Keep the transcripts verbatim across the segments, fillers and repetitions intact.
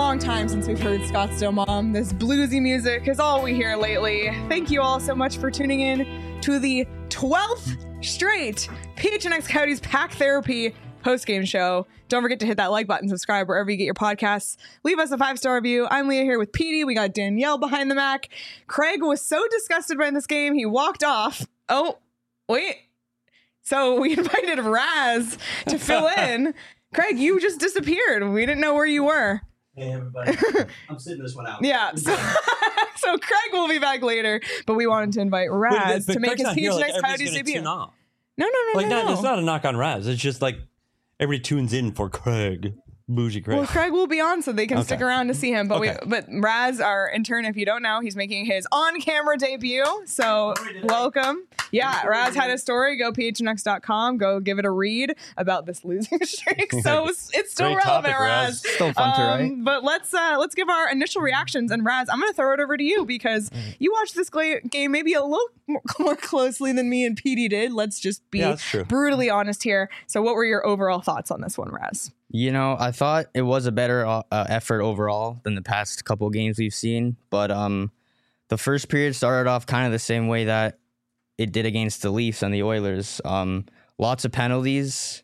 long time since we've heard Scottsdale Mom. This bluesy music is all we hear lately. Thank you all so much for tuning in to the twelfth straight P H N X Coyotes Pack Therapy post-game show. Don't forget to hit that like button, subscribe wherever you get your podcasts. Leave us a five-star review. I'm Leah here with Petey. We got Danielle behind the Mac. Craig was so disgusted by this game, he walked off. Oh, wait. So we invited Raz to fill in. Craig, you just disappeared. We didn't know where you were. Hey, everybody. I'm sitting this one out. Yeah. So, so Craig will be back later, but we wanted to invite Raz but, but to make Craig's his P H N X like, Coyotes debut. No, no, no, like, no, not, no. It's not a knock on Raz. It's just like everybody tunes in for Craig. Bougie Craig. Well, Craig will be on, so they can Okay. stick around to see him. But Okay. we, but Raz, our intern, if you don't know, he's making his on-camera debut. So welcome. Yeah, Raz had a story. Go P H N X dot com. Go give it a read about this losing streak. So it's, it's still Great relevant, topic, Raz. Raz. Still fun to write. Um, but let's uh, let's give our initial reactions. And Raz, I'm going to throw it over to you because you watched this gla- game maybe a little more, more closely than me and Petey did. Let's just be Yeah, that's true. brutally honest here. So what were your overall thoughts on this one, Raz? You know, I thought it was a better uh, effort overall than the past couple of games we've seen. But um, the first period started off kind of the same way that it did against the Leafs and the Oilers. Um, lots of penalties.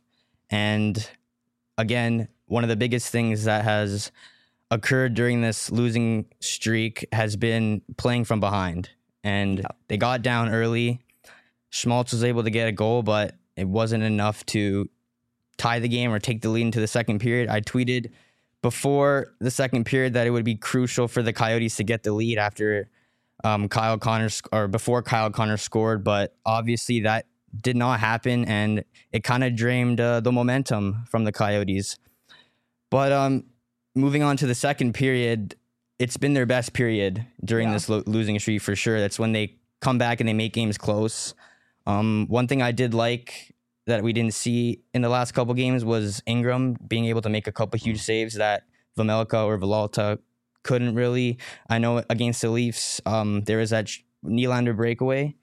And again, one of the biggest things that has occurred during this losing streak has been playing from behind. And they got down early. Schmaltz was able to get a goal, but it wasn't enough to tie the game or take the lead into the second period. I tweeted before the second period that it would be crucial for the Coyotes to get the lead after um, Kyle Connor sc- or before Kyle Connor scored, but obviously that did not happen, and it kind of drained uh, the momentum from the Coyotes. But um, moving on to the second period, it's been their best period during Yeah. this lo- losing streak for sure. That's when they come back and they make games close. Um, one thing I did like that we didn't see in the last couple games was Ingram being able to make a couple huge saves that Vejmelka or Villalta couldn't really. I know against the Leafs, um, there was that Nylander breakaway,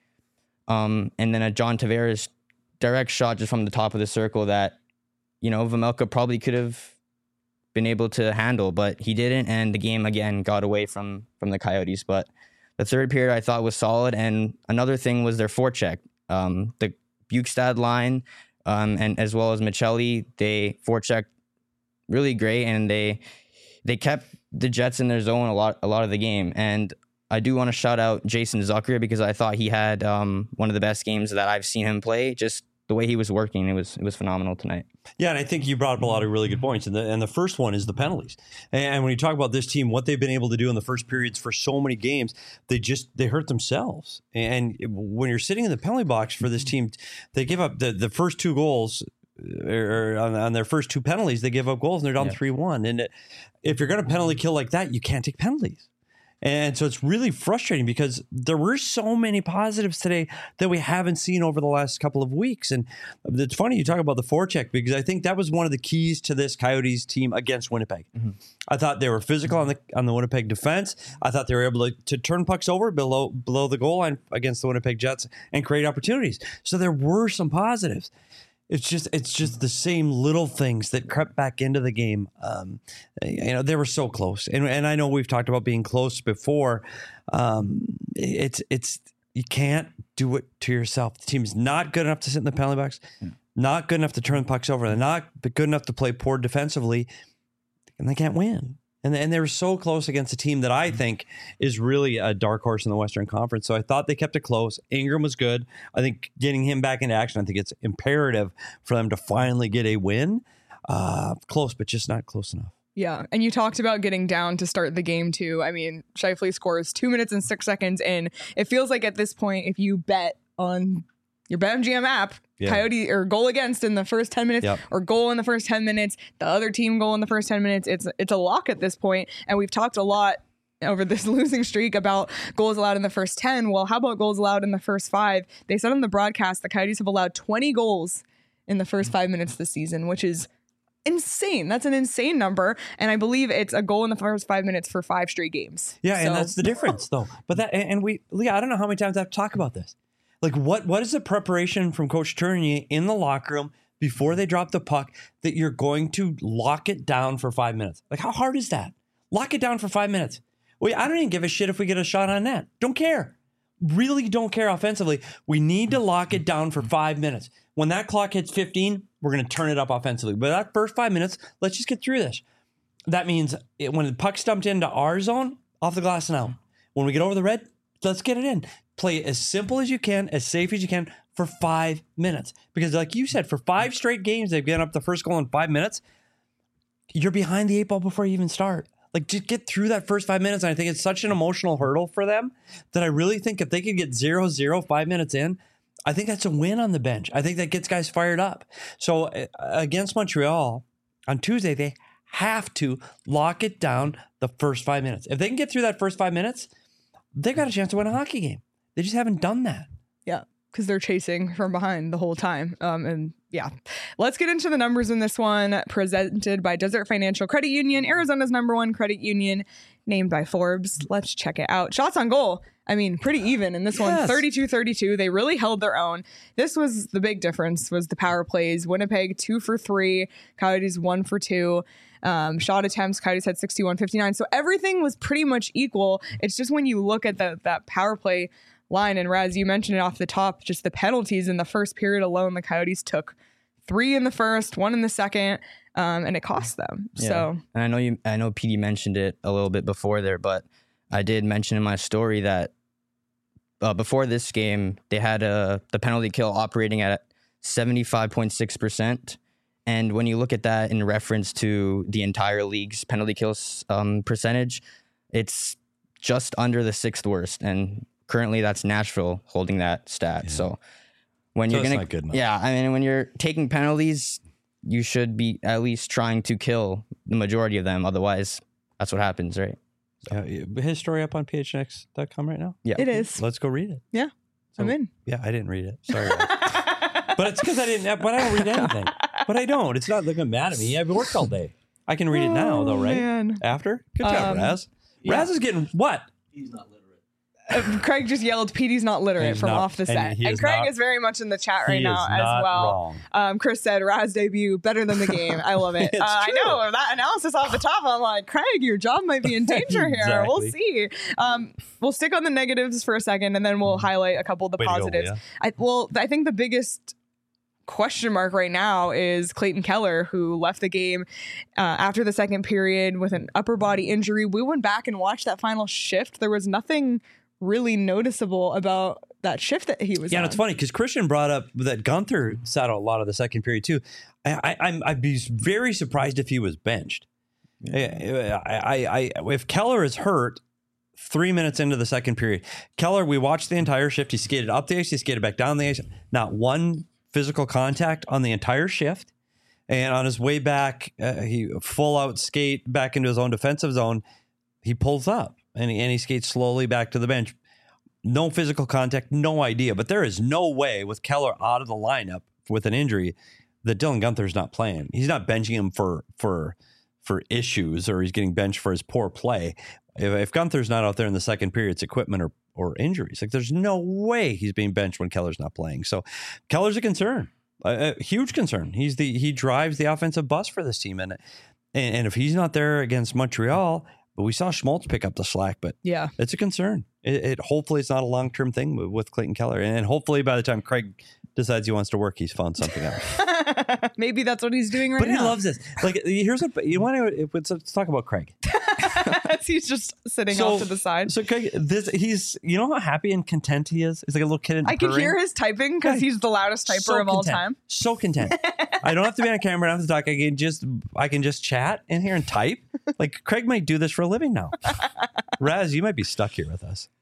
um, and then a John Tavares direct shot just from the top of the circle that, you know, Vejmelka probably could have been able to handle, but he didn't, and the game again got away from from the Coyotes. But the third period I thought was solid, and another thing was their forecheck. Um, the Bukestad line, um, and as well as Michelli, they forechecked really great, and they they kept the Jets in their zone a lot a lot of the game. And I do want to shout out Jason Zucker because I thought he had um, one of the best games that I've seen him play. Just the way he was working, it was it was phenomenal tonight. Yeah, and I think you brought up a lot of really good points. And the, and the first one is the penalties. And when you talk about this team, what they've been able to do in the first periods for so many games, they just they hurt themselves. And when you're sitting in the penalty box for this team, they give up the, the first two goals. Or on, on their first two penalties, they give up goals and they're down three one. And it, if you're going to penalty kill like that, you can't take penalties. And so it's really frustrating because there were so many positives today that we haven't seen over the last couple of weeks. And it's funny you talk about the forecheck because I think that was one of the keys to this Coyotes team against Winnipeg. Mm-hmm. I thought they were physical on the on the Winnipeg defense. I thought they were able to, to turn pucks over below below the goal line against the Winnipeg Jets and create opportunities. So there were some positives. It's just it's just the same little things that crept back into the game. Um, you know, they were so close, and and I know we've talked about being close before. Um, it's it's you can't do it to yourself. The team's not good enough to sit in the penalty box, yeah. not good enough to turn pucks over. They're not good enough to play poor defensively, and they can't win. And and they were so close against a team that I think is really a dark horse in the Western Conference. So I thought they kept it close. Ingram was good. I think getting him back into action, I think it's imperative for them to finally get a win. Uh, close, but just not close enough. Yeah, and you talked about getting down to start the game too. I mean, Scheifele scores two minutes and six seconds in. It feels like at this point, if you bet on your BetMGM app, yeah. Coyote or goal against in the first ten minutes yep. or goal in the first ten minutes, the other team goal in the first ten minutes, it's it's a lock at this point. And we've talked a lot over this losing streak about goals allowed in the first ten. Well, how about goals allowed in the first five? They said on the broadcast the Coyotes have allowed twenty goals in the first five minutes this season, which is insane. That's an insane number. And I believe it's a goal in the first five minutes for five straight games. Yeah, so. And that's the difference, though. But that, and we, Leah, I don't know how many times I have to talk about this. Like, what what is the preparation from Coach Tournier in the locker room before they drop the puck that you're going to lock it down for five minutes? Like, how hard is that? Lock it down for five minutes. Wait, I don't even give a shit if we get a shot on net. Don't care. Really don't care offensively. We need to lock it down for five minutes. When that clock hits fifteen, we're going to turn it up offensively. But that first five minutes, let's just get through this. That means it, when the puck's dumped into our zone, off the glass and out. When we get over the red, let's get it in. Play it as simple as you can, as safe as you can for five minutes. Because like you said, for five straight games, they've given up the first goal in five minutes. You're behind the eight ball before you even start. Like, just get through that first five minutes. And I think it's such an emotional hurdle for them that I really think if they could get zero zero five minutes in, I think that's a win on the bench. I think that gets guys fired up. So uh, against Montreal on Tuesday, they have to lock it down the first five minutes. If they can get through that first five minutes, they've got a chance to win a hockey game. They just haven't done that. Yeah, because they're chasing from behind the whole time. Um, and yeah, let's get into the numbers in this one, presented by Desert Financial Credit Union, Arizona's number one credit union, named by Forbes. Let's check it out. Shots on goal. I mean, pretty even in this yes. one, thirty-two thirty-two. They really held their own. This was the big difference, was the power plays. Winnipeg, two for three. Coyotes, one for two. Um, shot attempts, Coyotes had sixty-one fifty-nine. So everything was pretty much equal. It's just when you look at the, that power play line, and Raz, you mentioned it off the top, just the penalties in the first period alone, the Coyotes took three in the first, one in the second, um, and it cost them. Yeah. So, and I know you, I know P D mentioned it a little bit before there, but I did mention in my story that uh, before this game, they had a, the penalty kill operating at seventy-five point six percent. And when you look at that in reference to the entire league's penalty kills um, percentage, it's just under the sixth worst. And currently that's Nashville holding that stat. Yeah. So when so you're going to, yeah, I mean, when you're taking penalties, you should be at least trying to kill the majority of them. Otherwise, that's what happens, right? So. Uh, his story up on P H N X dot com right now? Yeah, it is. Let's go read it. Yeah, so, I'm in. Yeah, I didn't read it. Sorry. But it's because I didn't, but I don't read anything. But I don't. It's not looking mad at me. I've worked all day. I can read it now, though, right? Man. After? Good job, um, Raz. Yeah. Raz is getting what? He's not literate. Uh, Craig just yelled, Petey's not literate He's from not, off the set. And, And, is Craig not, is very much in the chat right he now is as not well. Wrong. Um, Chris said, Raz debut, better than the game. I love it. It's uh, I true. know, that analysis off the top, I'm like, Craig, your job might be in danger here. Exactly. We'll see. Um, we'll stick on the negatives for a second, and then we'll highlight a couple of the Way to go, positives. yeah. I, well, I think the biggest question mark right now is Clayton Keller, who left the game uh, after the second period with an upper body injury. We went back and watched that final shift. There was nothing really noticeable about that shift that he was Yeah, on. and it's funny because Christian brought up that Gunther sat out a lot of the second period too. I, I, I'm, I'd be very surprised if he was benched. Yeah. I, I, I, if Keller is hurt three minutes into the second period, Keller, we watched the entire shift. He skated up the ice, he skated back down the ice. Not one physical contact on the entire shift. And on his way back, uh, he full out skate back into his own defensive zone. He pulls up and he, and he skates slowly back to the bench. No physical contact, no idea. But there is no way with Keller out of the lineup with an injury that Dylan Gunther's not playing. He's not benching him for for for issues, or he's getting benched for his poor play. If, if Gunther's not out there in the second period, it's equipment or or injuries. Like, there's no way he's being benched when Keller's not playing. So Keller's a concern, a, a huge concern. He's the he drives the offensive bus for this team, and and, and if he's not there against Montreal, but we saw Schmaltz pick up the slack, but yeah, it's a concern. It, it hopefully it's not a long term thing with Clayton Keller, and hopefully by the time Craig decides he wants to work, he's found something else. Maybe that's what he's doing right but now. But he loves this. Like, here's what you want to. Let's, let's talk about Craig. He's just sitting so, off to the side. So Craig, this he's you know how happy and content he is. He's like a little kid in I could hear his typing because he's the loudest typer so of all content. time. So content. I don't have to be on camera. I don't have to talk. I can just I can just chat in here and type. Like, Craig might do this for a living now. Raz, you might be stuck here with us.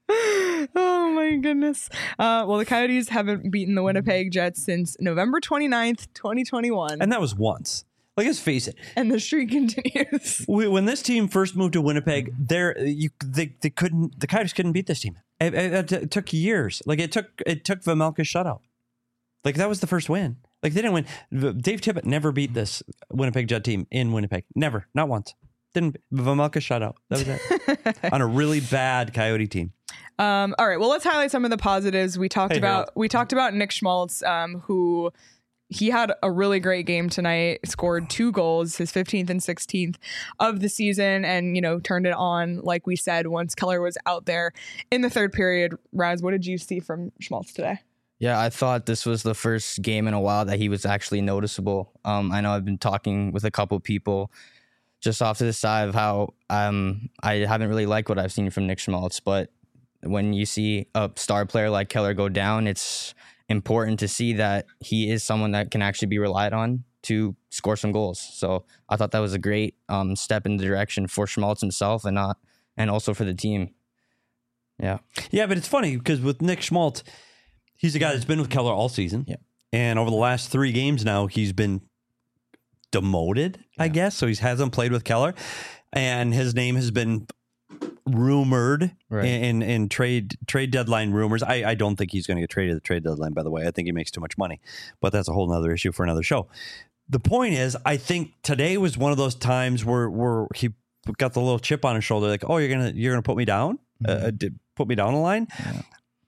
Oh my goodness. Uh, well, the Coyotes haven't beaten the Winnipeg Jets since November twenty-ninth, twenty twenty-one. And that was once. Like, let's face it. And the streak continues. We, when this team first moved to Winnipeg, there you they, they couldn't the Coyotes couldn't beat this team. It, it, it took years. Like, it took it took Vejmelka's shutout. Like, that was the first win. Like, they didn't win. Dave Tippett never beat this Winnipeg Jet team in Winnipeg. Never. Not once. Didn't Vejmelka shutout. That was it. On a really bad Coyote team. Um, all right. Well, let's highlight some of the positives. We talked Hey, about Harold. we talked about Nick Schmaltz, um, who he had a really great game tonight, scored two goals, his fifteenth and sixteenth of the season, and, you know, turned it on, like we said, once Keller was out there in the third period. Raz, what did you see from Schmaltz today? Yeah, I thought this was the first game in a while that he was actually noticeable. Um, I know I've been talking with a couple people just off to the side of how um, I haven't really liked what I've seen from Nick Schmaltz, but when you see a star player like Keller go down, it's important to see that he is someone that can actually be relied on to score some goals. So I thought that was a great um, step in the direction for Schmaltz himself and not, and also for the team. Yeah. Yeah, but it's funny because with Nick Schmaltz, he's a guy that's been with Keller all season. Yeah. And over the last three games now, he's been demoted, yeah. I guess. So he hasn't played with Keller. And his name has been rumored right. in, in trade trade deadline rumors. I, I don't think he's going to get traded at the trade deadline, by the way. I think he makes too much money. But that's a whole nother issue for another show. The point is, I think today was one of those times where, where he got the little chip on his shoulder, like, oh, you're going to you're gonna put me down? Mm-hmm. Uh, did, put me down the line? Yeah.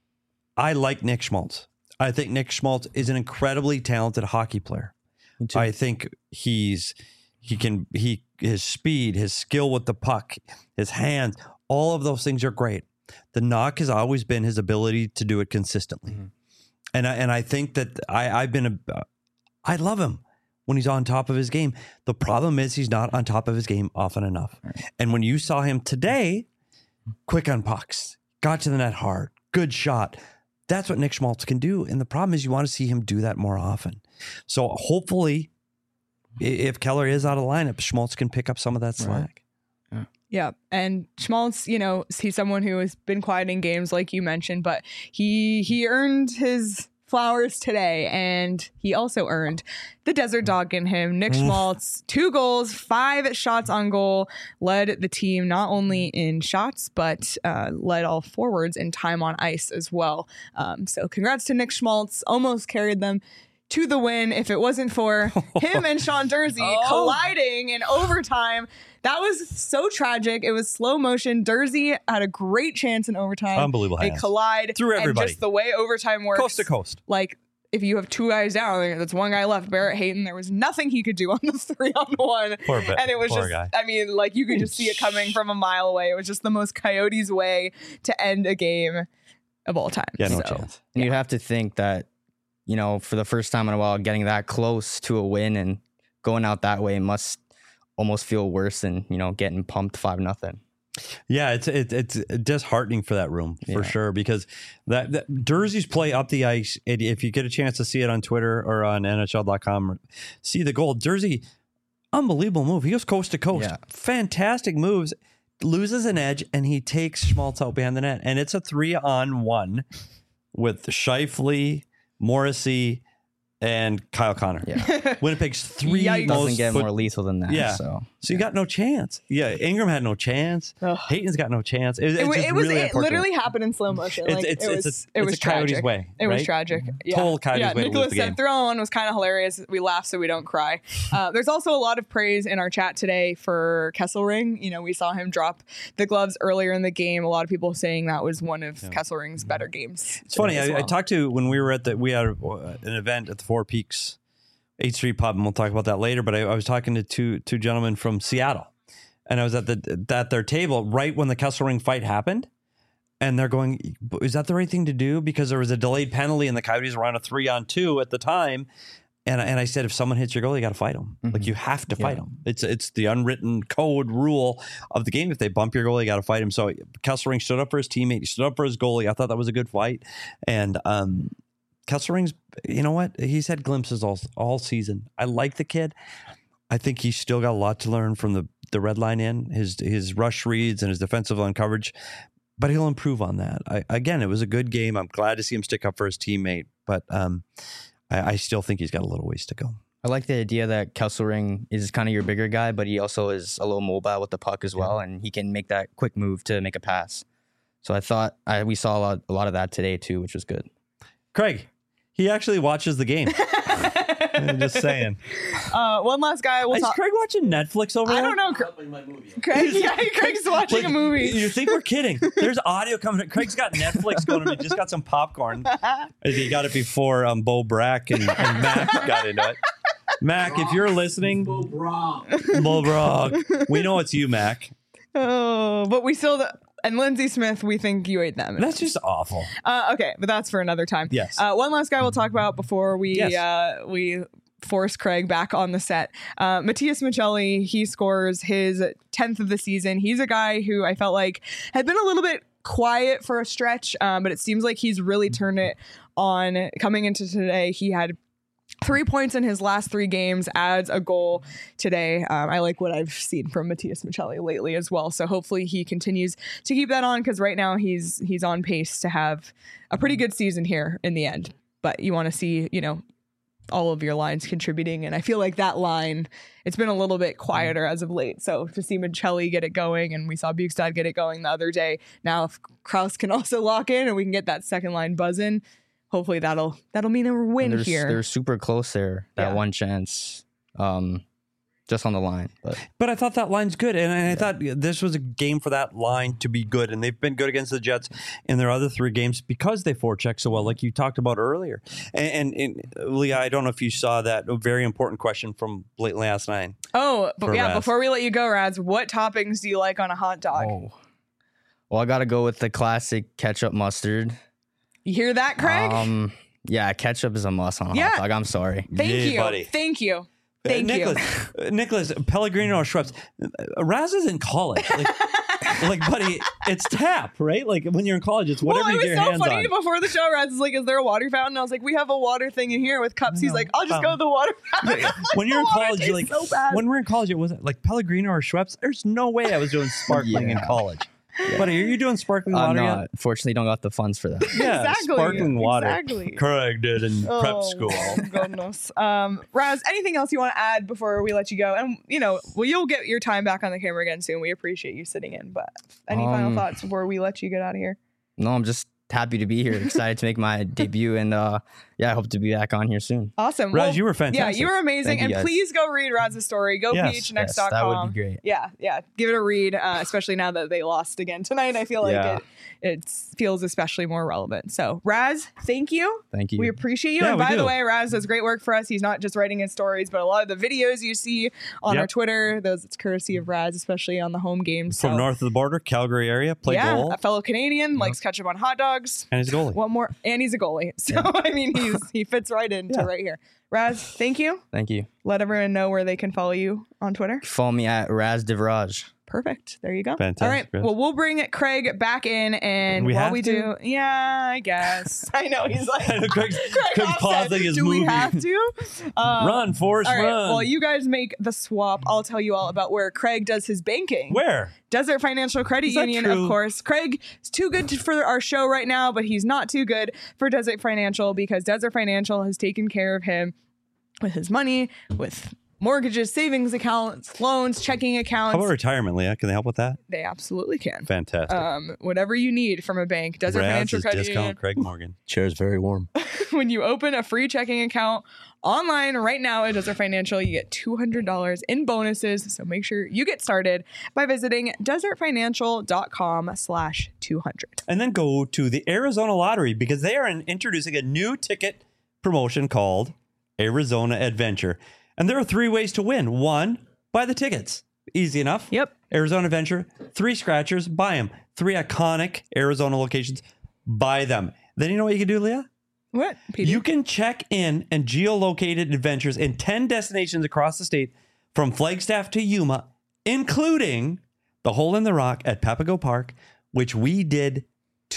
I like Nick Schmaltz. I think Nick Schmaltz is an incredibly talented hockey player. I think he's he can he his speed, his skill with the puck, his hands, all of those things are great. The knock has always been his ability to do it consistently. Mm-hmm. And I, and I think that I I've been a I love him when he's on top of his game. The problem is he's not on top of his game often enough. Right. And when you saw him today, quick on pucks, got to the net hard, good shot. That's what Nick Schmaltz can do. And the problem is you want to see him do that more often. So hopefully, if Keller is out of the lineup, Schmaltz can pick up some of that slack. Right. Yeah. Yeah. And Schmaltz, you know, he's someone who has been quiet in games, like you mentioned, but he he earned his flowers today, and he also earned the desert dog in him. Nick Schmaltz, two goals, five shots on goal, led the team not only in shots, but uh, led all forwards in time on ice as well. Um, so congrats to Nick Schmaltz, almost carried them to the win. If it wasn't for him and Sean Durzi oh. colliding in overtime, that was so tragic. It was slow motion. Durzi had a great chance in overtime. Unbelievable. They collide through everybody. And just the way overtime works, coast to coast. Like if you have two guys down, that's one guy left. Barrett Hayton, there was nothing he could do on the three on one. Poor bit. And it was Poor just, guy. I mean, like you could just see it coming from a mile away. It was just the most Coyotes way to end a game of all time. Yeah, no so, chance. And yeah. you'd have to think that, you know, for the first time in a while, getting that close to a win and going out that way must almost feel worse than, you know, getting pumped five nothing. Yeah, it's it, it's disheartening for that room for yeah. sure, because that, that Durzi's play up the ice, it, if you get a chance to see it on Twitter or on N H L dot com, see the goal. Durzi, unbelievable move. He goes coast to coast. Yeah. Fantastic moves. Loses an edge, and he takes Schmaltz out behind the net. And it's a three on one with Scheifele, Morrissey, and Kyle Connor. Yeah. Winnipeg's three Yikes. most Doesn't get put, more lethal than that. Yeah. So, so you got no chance. Yeah. Ingram had no chance. Ugh. Hayton's got no chance. It, It, it's wa- just it was really it literally happened in slow motion. It's- Like, it's- it it's was a- it it's was a Coyotes tragic. way, It was right? tragic. Yeah. Total Coyotes yeah, way to lose Nicholas the game. said throwing was kind of hilarious. We laugh so we don't cry. Uh, there's also a lot of praise in our chat today for Kesselring. You know, we saw him drop the gloves earlier in the game. A lot of people saying that was one of Yeah. Kesselring's better games. It's funny. as I, I well. talked to when we were at the we had a, an event at the Four Peaks eighth Street Pub, and we'll talk about that later. But I, I was talking to two two gentlemen from Seattle, and I was at the at their table right when the Kesselring fight happened, and they're going, "Is that the right thing to do?" Because there was a delayed penalty, and the Coyotes were on a three on two at the time. And and I said, if someone hits your goal, you got to fight them. Mm-hmm. Like you have to fight Yeah. them. It's it's the unwritten code rule of the game. If they bump your goal, you got to fight him. So Kesselring stood up for his teammate. He stood up for his goalie. I thought that was a good fight. And um, Kesselring's, you know what? He's had glimpses all all season. I like the kid. I think he's still got a lot to learn from the the red line in his his rush reads and his defensive line coverage. But he'll improve on that. I, again, it was a good game. I'm glad to see him stick up for his teammate. But um, I, I still think he's got a little ways to go. I like the idea that Kesselring is kind of your bigger guy, but he also is a little mobile with the puck as well, and he can make that quick move to make a pass. So I thought I, we saw a lot, a lot of that today too, which was good. Craig, he actually watches the game. I'm just saying. Uh, one last guy. We'll Is talk. Craig watching Netflix over I there? don't know. Cra- Helping my movie. Craig, yeah, Craig's watching Like, a movie. You think we're kidding? There's audio coming. Craig's got Netflix going. He just got some popcorn. He got it before um, Bo Brack and, and Mac got into it. Mac, if you're listening, Bo Brock. Bo Brack, we know it's you, Mac. Oh, but we still. And Lindsay Smith, we think you ate them. That's just awful. Uh, okay, but that's for another time. Yes. Uh, one last guy we'll talk about before we Yes. uh, we force Craig back on the set. Uh, Matthias Michelli, he scores his tenth of the season. He's a guy who I felt like had been a little bit quiet for a stretch, um, but it seems like he's really turned it on. Coming into today, he had three points in his last three games, adds a goal today. Um, I like what I've seen from Matthias Michelli lately as well. So hopefully he continues to keep that on, because right now he's he's on pace to have a pretty good season here in the end. But you want to see, you know, all of your lines contributing. And I feel like that line, it's been a little bit quieter as of late. So to see Michelli get it going, and we saw Bukestad get it going the other day. Now if Kraus can also lock in and we can get that second line buzzing, hopefully that'll that'll mean a win they're, here. They're super close there. That Yeah. one chance, um, just on the line. But But I thought that line's good, and I thought this was a game for that line to be good, and they've been good against the Jets in their other three games because they forecheck so well, like you talked about earlier. And, and, and Leah, I don't know if you saw that very important question from Blake last night. Oh, but For yeah, Raz. before we let you go, Raz, what toppings do you like on a hot dog? oh, well, I got to go with the classic ketchup mustard. You hear that, Craig? Um, yeah, ketchup is a must on a Yeah. hot dog. I'm sorry. Thank Yeah, you. buddy. Thank you. Thank uh, you. Nicholas, uh, Nicholas, Pellegrino or Schweppes. Uh, Raz is in college. Like, like, buddy, it's tap, right? Like when you're in college, it's whatever Well, you it get was your so hands funny on. before the show. Raz is like, "Is there a water fountain?" I was like, "We have a water thing in here with cups." He's No. like, "I'll just Um, go to the water fountain." When you're in The water college, you're like, tastes so bad. when we're in college, it wasn't like Pellegrino or Schweppes. There's no way I was doing sparkling in Yeah. college. Buddy, are you doing sparkling I'm water yet? not. Fortunately, don't got the funds for that. Yeah, Exactly, sparkling water. exactly. Craig did in prep Oh, school. goodness. Um, Raz, anything else you want to add before we let you go? And you know, well, you'll get your time back on the camera again soon. We appreciate you sitting in. But any final Um, thoughts before we let you get out of here? No, I'm just happy to be here. Excited to make my debut, and uh, yeah, I hope to be back on here soon. Awesome. Raz, Well, you were fantastic. Yeah, you were amazing. Thank you, and guys. please go read Raz's story. Go Yes, P H N X Yes, dot com. that would be great. Yeah, yeah. Give it a read, uh, especially now that they lost again tonight. I feel like Yeah. it it feels especially more relevant. So, Raz, thank you. Thank you. We appreciate you. Yeah, and we by the do. way, Raz does great work for us. He's not just writing his stories, but a lot of the videos you see on Yep. our Twitter, those it's courtesy of Raz, especially on the home games. From So, north of the border, Calgary area, play yeah, goal, a fellow Canadian, likes ketchup on hot dogs. and he's a goalie. One more, and he's a goalie. So I mean, he's he fits right into Yeah. right here. Raz, thank you. Thank you. Let everyone know where they can follow you on Twitter. Follow me at Raz Devraj. Perfect. There you go. Fantastic, All right. Raz. Well, we'll bring Craig back in, and We while have we to? do, yeah, I guess. I know he's like Craig's, Craig Craig's Hoff pausing said, his do movie. we have to? Uh, Run, Forrest, All right. run. While you guys make the swap, I'll tell you all about where Craig does his banking. Where? Desert Financial Credit Is that Union, true? of course. Craig is too good to, for our show right now, but he's not too good for Desert Financial because Desert Financial has taken care of him with his money, with mortgages, savings accounts, loans, checking accounts. How about retirement, Leah? Can they help with that? They absolutely can. Fantastic. Um, whatever you need from a bank, Desert Raz Financial is Credit discount Union. Craig Morgan. Chair's very warm. When you open a free checking account online right now at Desert Financial, you get two hundred dollars in bonuses. So make sure you get started by visiting desertfinancial.com slash 200. And then go to the Arizona Lottery because they are in- introducing a new ticket promotion called Arizona Adventure. And there are three ways to win. One, buy the tickets. Easy enough. Yep. Arizona Adventure, three scratchers, buy them. Three iconic Arizona locations, buy them. Then you know what you can do, Leah? What? P D? You can check in and geolocated adventures in ten destinations across the state from Flagstaff to Yuma, including the Hole in the Rock at Papago Park, which we did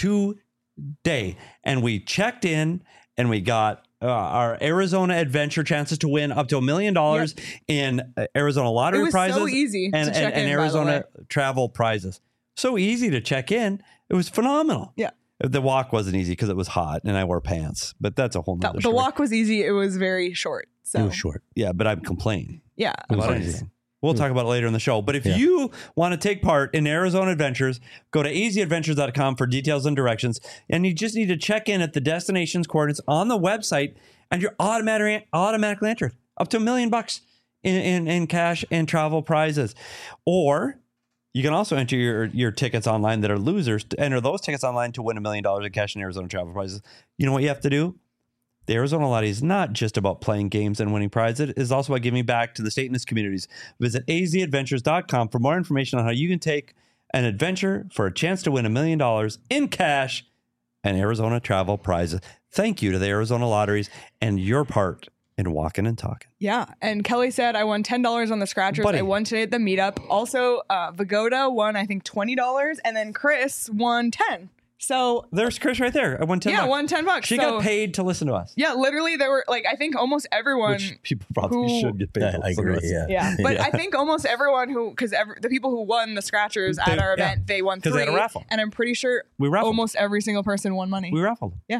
today. And we checked in and we got uh, our Arizona Adventure chances to win up to a million dollars in uh, Arizona lottery It was so prizes easy and, to check and, and in, by the Arizona travel prizes. So easy to check in. It was phenomenal. Yeah. The walk wasn't easy because it was hot and I wore pants, but that's a whole The, nother the story. walk was easy. It was very short. So It was short. Yeah, but I'm complaining yeah, about of course. anything. We'll talk about it later in the show. But if Yeah. you want to take part in Arizona Adventures, go to easy adventures dot com for details and directions. And you just need to check in at the destination's coordinates on the website and you're automatic, automatically entered up to a million bucks in, in, in cash and travel prizes. Or you can also enter your, your tickets online that are losers to enter those tickets online to win a million dollars in cash and Arizona travel prizes. You know what you have to do? The Arizona Lottery is not just about playing games and winning prizes. It is also about giving back to the state and its communities. Visit a z adventures dot com for more information on how you can take an adventure for a chance to win a million dollars in cash and Arizona travel prizes. Thank you to the Arizona Lotteries and your part in walking and talking. Yeah. And Kelly said, I won ten dollars on the scratchers. Buddy. I won today at the meetup. Also, uh, Vagoda won, I think, twenty dollars. And then Chris won ten. So There's Chris right there. I won ten yeah, bucks. won ten bucks. She so, got paid to listen to us. Yeah, literally there were like, I think almost everyone. Which people probably who- should get paid I, to I listen agree. to us. Yeah. Yeah, but Yeah. I think almost everyone who, because the people who won the scratchers They- at our yeah. event, they won 'Cause three. they had a raffle. And I'm pretty sure We raffled. almost every single person won money. We raffled them.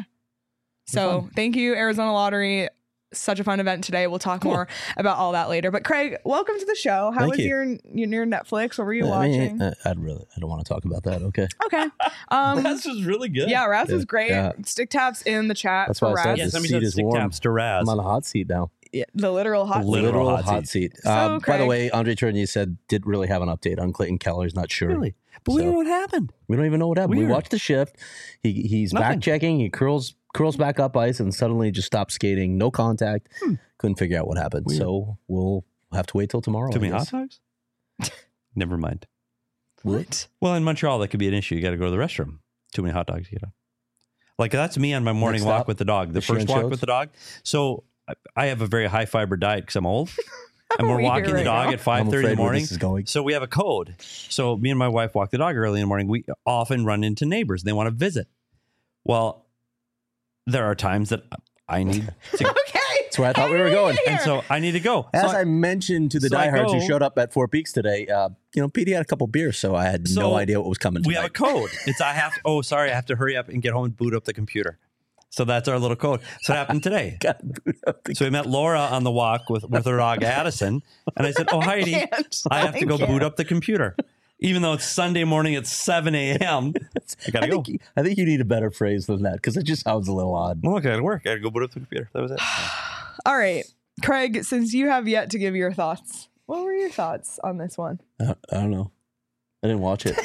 So fun. thank you, Arizona Lottery. Such a fun event today. We'll talk Cool. more about all that later. But Craig, welcome to the show. How Thank was you. your your Netflix? What were you I mean, watching? uh, I'd really, I don't want to talk about that. Okay. Okay. Um, This was really good. yeah, Raz was Yeah. great. Yeah. Stick taps in the chat That's for why I said Raz. Yeah, The somebody seat said is stick warm. taps to Raz. I'm on a hot seat now. Yeah, the literal hot seat. Literal Literal hot hot, seat. seat. So, Um, by Craig- the way, Andre Tournier said didn't really have an update on Clayton Keller. He's not sure. Really? But we So- don't know what happened. We don't even know what happened. Weird. We watched the shift. He he's Nothing. back checking. He curls curls back up ice and suddenly just stops skating. No contact. Hmm. Couldn't figure out what happened. Weird. So we'll have to wait till tomorrow. Too I many hot guess. dogs? Never mind. What? Well, in Montreal, that could be an issue. You got to go to the restroom. Too many hot dogs to get up. Like that's me on my morning Next walk stop, with the dog. The the first Sheeran walk shows? with the dog. So I- I have a very high fiber diet because I'm old, and we're We walking hear the it dog now. at five I'm thirty in afraid the where morning. this is going. So we have a code. So me and my wife walk the dog early in the morning. We often run into neighbors. They want to visit. Well, there are times that I need to, Okay. That's where I thought we were going. and so I need to go. So As I- I mentioned to the so I diehards go- who showed up at Four Peaks today, uh, you know, Petey had a couple beers, so I had So no idea what was coming. we have a tonight. code. It's I have. Oh, sorry, I have to hurry up and get home and boot up the computer. So that's our little code. So it happened today. Got to boot up the- So we met Laura on the walk with, with her dog Addison, and I said, "Oh, Heidi, can't. I have to go I can't. boot up the computer, even though it's Sunday morning at seven a.m. I gotta I go. think, you- I think you need a better phrase than that because it just sounds a little odd. Well, okay, I gotta work. I gotta go boot up the computer. That was it. All right. Craig, since you have yet to give your thoughts, what were your thoughts on this one? I, I don't know. I didn't watch it.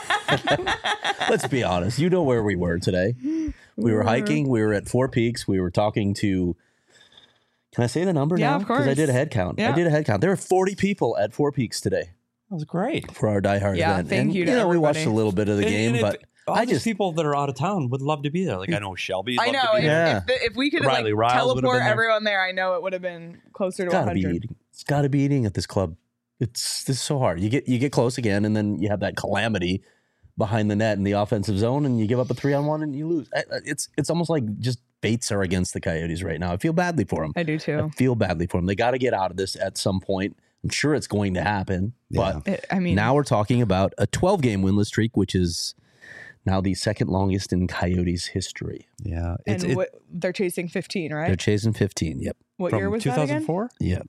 Let's be honest. You know where we were today. We were hiking. We were at Four Peaks. We were talking to. Can I say the number Yeah, now? of Because I course. did a head count. Yeah. I did a head count. There were forty people at Four Peaks today That was great. for our Die Hard Yeah, event. thank and, you to know, we watched a everybody. little bit of the And- game, and but if, all I these just people that are out of town would love to be there. Like I know Shelby. I loved know. To be If, there. Yeah. if, the, if we could Riley like Riles would've teleport been there. everyone there, I know it would have been closer to it's got to be one hundred. eating. It's got to be eating at this club. It's this is so hard. You get you get close again, and then you have that calamity behind the net in the offensive zone, and you give up a three on one, and you lose. I- I- It's it's almost like just fates are against the Coyotes right now. I feel badly for them. I do I too. feel badly for them. They got to get out of this at some point. I'm sure it's going to happen, but It, I mean, now we're talking about a twelve game winless streak, which is now the second longest in Coyotes history. Yeah, it's and it, what, they're chasing fifteen, They're right? chasing fifteen. Yep. What from year was two that thousand again? four. Yep.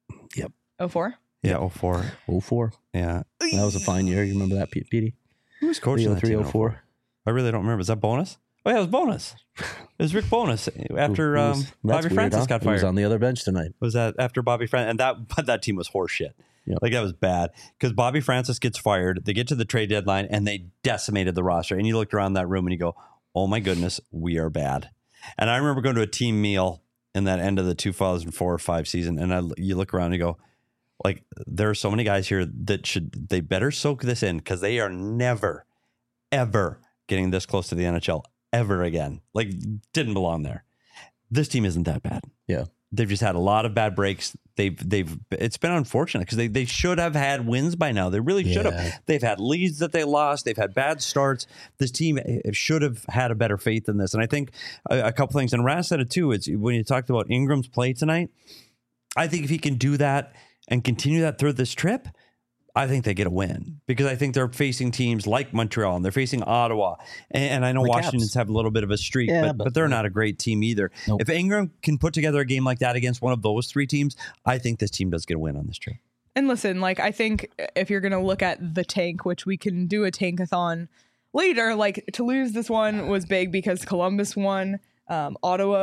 Oh four. Yeah, oh four. oh four. Yeah, That was a fine year. You remember that, P- Petey? who was coaching that three team oh in oh four. four? I really don't remember. Is that Bonus? Oh yeah, it was Bonus. It was Rick Bonus after um, That's Bobby weird, Francis huh? got He was fired. on the other bench tonight. Was that after Bobby Francis? And that but that team was horseshit. Yep. Like that was bad because Bobby Francis gets fired. They get to the trade deadline and they decimated the roster. And you looked around that room and you go, "Oh my goodness, we are bad." And I remember going to a team meal in that end of the two thousand four or five season, and I you look around and you go, like there are so many guys here that should they better soak this in because they are never, ever getting this close to the N H L ever again. Like didn't belong there. This team isn't that bad. Yeah. They've just had a lot of bad breaks. They've they've it's been unfortunate because they, they should have had wins by now. They really should Yeah. have. They've had leads that they lost. They've had bad starts. This team should have had a better faith in this. And I think a, a couple things. And Raz said it too. It's when you talked about Ingram's play tonight. I think if he can do that and continue that through this trip, I think they get a win because I think they're facing teams like Montreal and they're facing Ottawa. And, and I know The Washington's Caps. have a little bit of a streak, Yeah, but, but- but they're not a great team either. Nope. If Ingram can put together a game like that against one of those three teams, I think this team does get a win on this trip. And listen, like I think if you're gonna look at the tank, which we can do a tankathon later, like to lose this one was big because Columbus won, um, Ottawa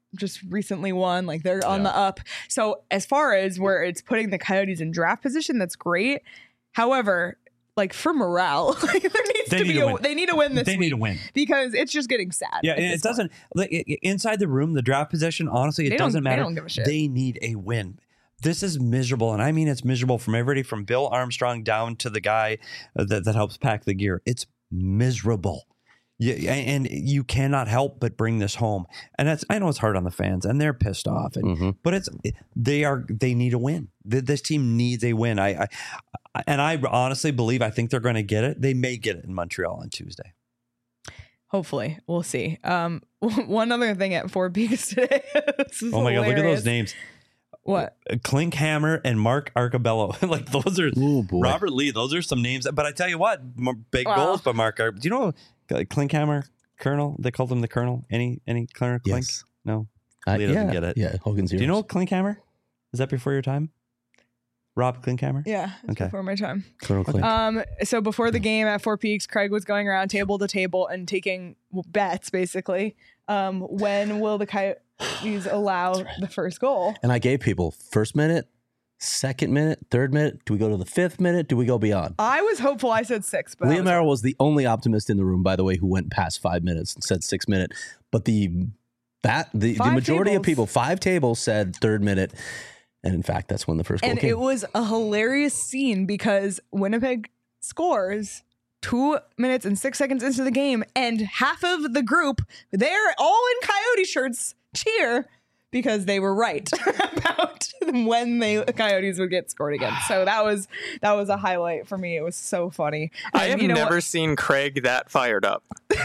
just recently won. Like they're on Yeah. the up. So as far as where it's putting the Coyotes in draft position, that's great. However, like for morale, like there needs They to need be to a, win. they need to win this They week need to win. because it's just getting sad. Yeah, at and this it doesn't like, i- i- inside the room, the draft position. Honestly, it They don't- doesn't they matter. don't give a shit. They need a win. This is miserable, and I mean it's miserable from everybody from Bill Armstrong down to the guy uh, that that helps pack the gear. It's miserable. Yeah, and you cannot help but bring this home. And that's I know it's hard on the fans, and they're pissed off. And Mhm. but it's they are they need a win. Th- This team needs a win. I, I and I honestly believe I think they're going to get it. They may get it in Montreal on Tuesday. Hopefully, we'll see. Um, one other thing at Four Peaks today. This is Oh my god, look at hilarious. those names. What? Klinkhammer and Mark Arcabello. Like those are Oh, boy. Robert Lee. Those are some names. But I tell you what, m- big Wow. goals by Mark. Ar- Do you know uh, Klinkhammer Colonel? They called him the Colonel. Any any Colonel Klink? Yes. No. Uh, Lee doesn't yeah, get it. Yeah, Hogan's Do you Heroes. know Klinkhammer? Is that before your time? Rob Klinkhammer? Yeah, it's Okay. before my time. Colonel Klink? Um, so before the game at Four Peaks, Craig was going around table to table and taking bets, basically. Um, when will the Coyotes allow the first goal? and I gave people first minute, second minute, third minute. Do we go to the fifth minute? Do we go beyond? I was hopeful. I said six, but I Liam was- Merrill was the only optimist in the room, by the way, who went past five minutes and said six minute. But the that the, the Five majority tables. of people, five tables said third minute. And in fact, that's when the first goal and came. it was a hilarious scene because Winnipeg scores two minutes and six seconds into the game, and half of the group, they're all in Coyote shirts, cheer because they were right about when they Coyotes would get scored again. So that was that was a highlight for me. It was so funny. I And have you know never what? seen Craig that fired up.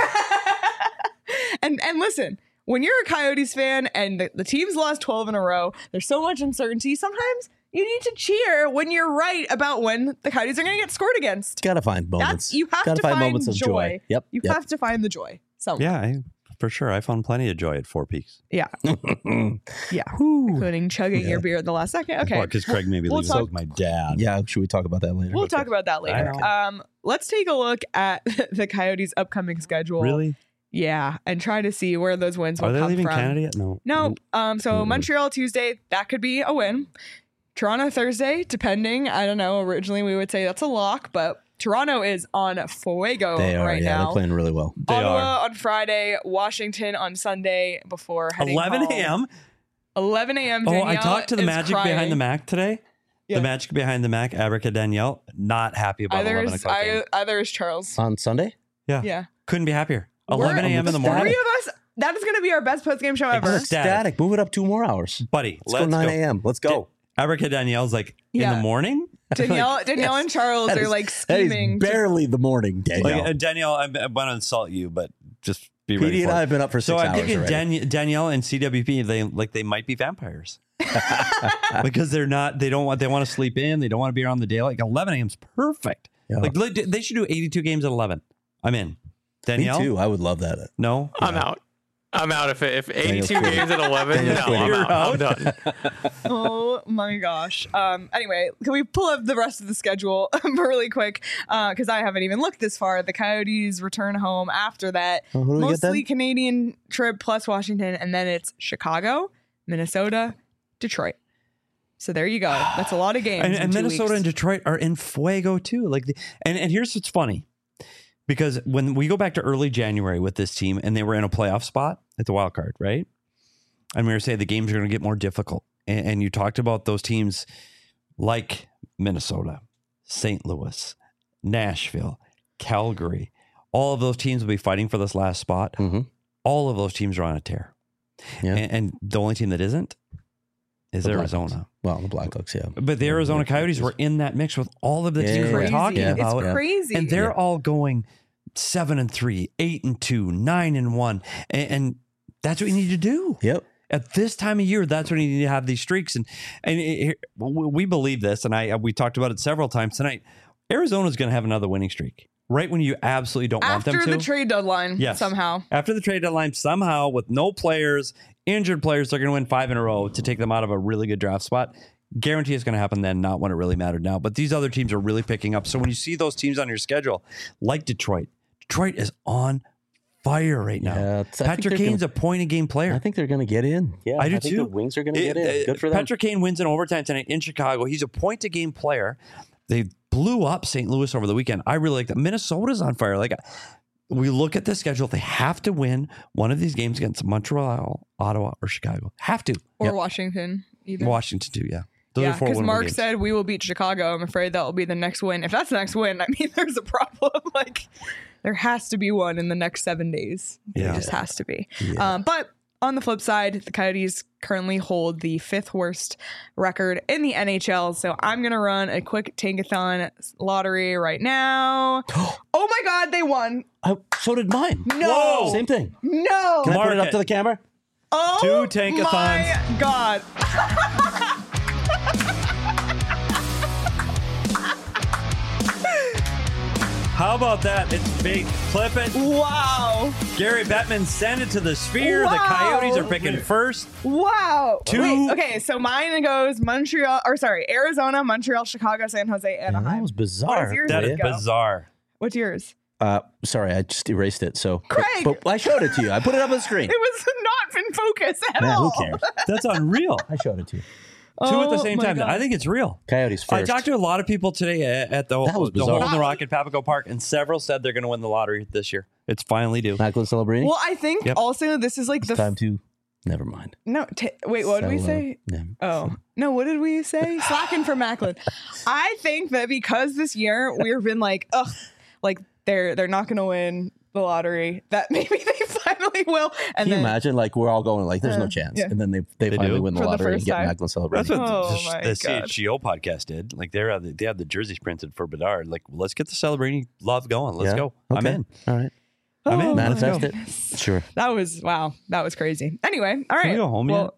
and and listen, when you're a Coyotes fan and the, the team's lost twelve in a row, there's so much uncertainty. Sometimes you need to cheer when you're right about when the Coyotes are going to get scored against. Gotta find moments. That's you have Gotta to find, moments of joy. Yep. You yep. have to find the joy. So Yeah, I, for sure. I found plenty of joy at Four Peaks. yeah, yeah, including chugging your beer at the last second. Okay, Because Craig maybe We'll leaves talk- like my dad. Yeah, should we talk about that later? we'll talk about that later. Okay. Um, let's take a look at the Coyotes' upcoming schedule. Really? Yeah, and try to see where those wins will Are they come leaving from. Canada yet? No. No. Um. So Mm-mm. Montreal Tuesday, that could be a win. Toronto Thursday, depending. I don't know. Originally, we would say that's a lock, but Toronto is on fuego They are. right yeah, now. they're playing really well. They Ottawa are. on Friday, Washington on Sunday before heading eleven home. a.m. eleven a.m. Oh, I Danielle talked to the is Magic crying. behind the Mac today. Yeah. The Magic behind the Mac, Abrica Danielle, not happy about Either eleven is, o'clock. game. I, either is Charles. On Sunday? Yeah. Couldn't be happier. We're- eleven a.m. in the the morning. Three of us. That is going to be our best post game show ever. Exactly. Static. Static. Move it up two more hours. Buddy, Let's, let's go nine go. a.m. Let's go. Abrica Danielle's like, Yeah. in the morning? Danielle, Danielle and Charles That are is- like That is scheming. to- barely the morning, Danielle. Like, uh, Danielle, I'm, I'm going to insult you, but just be ready P D for and I it. have been up for So six I'm hours thinking already. Dan- Danielle and C W P, they like they might be vampires because they're not. They don't want. They want to sleep in. They don't want to be around the daylight. Like eleven a.m. is perfect. Yeah. Like they they should do eighty-two games at eleven. I'm in. Me Danielle, too. I would love that. no, I'm out. I'm out. If if Daniel's eighty-two quitting. games at eleven, Daniel's no, quitting. I'm You're out. I'm done. Oh my gosh. Um. Anyway, can we pull up the rest of the schedule really quick? Because I haven't even looked this far. The Coyotes return home after that. Oh, who do we get Mostly then? Canadian trip plus Washington, and then it's Chicago, Minnesota, Detroit. So there you go. That's a lot of games. and, in and two Minnesota weeks. and Detroit are in fuego too. Like, the, and and here's what's funny, because when we go back to early January with this team, and they were in a playoff spot at the wild card, right? And we were saying the games are going to get more difficult, and, and you talked about those teams like Minnesota, Saint Louis, Nashville, Calgary. All of those teams will be fighting for this last spot. Mhm. All of those teams are on a tear, Yeah. and, and the only team that isn't is The Arizona. Well, the Blackhawks, yeah. But the Arizona Yeah, Coyotes were in that mix with all of the Yeah, teams yeah, we're yeah. talking Yeah. about. It's crazy. And they're Yeah. all going seven and three, eight and two, nine and one. And, and that's what you need to do. Yep. At this time of year, that's when you need to have these streaks. And and it, it- we believe this, and I we talked about it several times tonight. Arizona's going to have another winning streak right when you absolutely don't want after them to. the trade deadline. Yes. Somehow. After the trade deadline, somehow with no players, injured players, they're going to win five in a row to take them out of a really good draft spot. Guarantee it's going to happen then, not when it really mattered now. But these other teams are really picking up. So when you see those teams on your schedule, like Detroit, Detroit is on fire right now. Yeah, it's- I think Patrick they're Kane's gonna- a point a game player. I think they're going to get in. Yeah, I do think too. The Wings are going to It- get in. uh, Good for them. Patrick Kane wins in overtime tonight in Chicago. He's a point a game player. They blew up Saint Louis over the weekend. I really like that. Minnesota's on fire. Like we look at the schedule, they have to win one of these games against Montreal, Ottawa, or Chicago. Have to. Or Yep. Washington, either. Washington too. Yeah. Those yeah, are four because winnable Mark games. said we will beat Chicago. I'm afraid that will be the next win. If that's the next win, I mean, there's a problem. Like, there has to be one in the next seven days. Yeah. There just has to be. Yeah. Um, but on the flip side, the Coyotes currently hold the fifth worst record in the N H L. So I'm going to run a quick tankathon lottery right now. Oh my God, they won. I, so did mine. No. Same thing. No. Can I Mark put it up it. to the camera? Oh Two tankathons. my God. How about that? It's big. Clip it. Wow. Gary Bettman send it to the sphere. The Wow. Coyotes are picking first. Wow. Two- Wait, okay, so mine goes Montreal, or sorry, Arizona, Montreal, Chicago, San Jose, Yeah, Anaheim. that was What bizarre. is yours? That There is you go. bizarre. What's yours? Uh, sorry, I just erased it. So, Craig! but, but I showed it to you. I put it up on the screen. It was not in focus at Man, all. who cares? That's unreal. I showed it to you. Two at the Oh same my time. God. I think it's real. Coyotes first. I talked to a lot of people today at at the, That was the bizarre. hole in the rock at Papago Park, and several said they're going to win the lottery this year. It's finally due. Macklin Celebrini. Well, I think Yep. also this is like It's the time to. Never mind. no. T- wait, what did we Celo- say? Never- Oh no, what did we say? Slacking for Macklin. I think that because this year we've been like, ugh, like they're they're not going to win the lottery. That maybe they finally will. And Can you then, imagine? Like we're all going like, "There's Uh, no chance," yeah. and then they they, They finally do? win the For the lottery and first get time. Macklin Celebrini. That's what Oh the, my the C God. H G O podcast did. Like they're the, they have the jerseys printed for Bedard. Like let's get the celebrating love going. Let's Yeah? go. I'm Okay. in. All right, I'm in. Oh, Let's manifest go. it. Sure. that was wow. That was crazy. Anyway, all right. Can we go home well,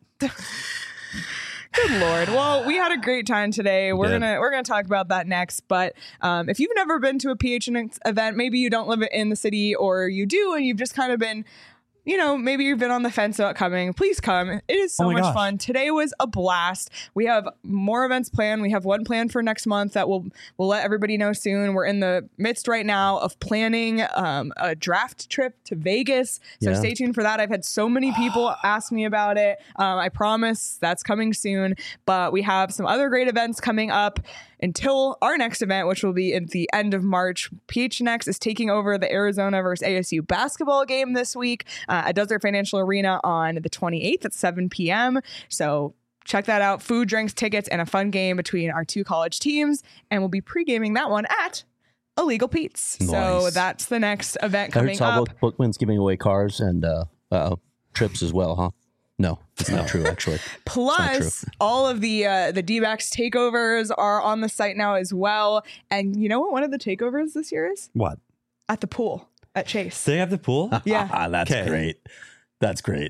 Good Lord. Well, we had a great time today. We're did. gonna we're gonna talk about that next. But um, if you've never been to a P H N X event, maybe you don't live in the city, or you do, and you've just kind of been, you know, maybe you've been on the fence about coming. Please come. It is so Oh my much gosh. fun. Today was a blast. We have more events planned. We have one planned for next month that we'll we'll let everybody know soon. We're in the midst right now of planning um, a draft trip to Vegas. So Yeah. stay tuned for that. I've had so many people ask me about it. Um, I promise that's coming soon. But we have some other great events coming up until our next event, which will be at the end of March. P H N X is taking over the Arizona versus A S U basketball game this week uh, at Desert Financial Arena on the twenty-eighth at seven p.m. So check that out. Food, drinks, tickets, and a fun game between our two college teams. And we'll be pre-gaming that one at Illegal Pete's. So Nice. that's the next event I heard coming up. Salvo Bookman's giving away cars and uh, uh, trips as well, huh? No, it's not true, actually. Plus, all of the uh, the D-backs takeovers are on the site now as well. And you know what one of the takeovers this year is? What? At the pool at Chase. They have the pool? Yeah. That's Okay. great. That's great.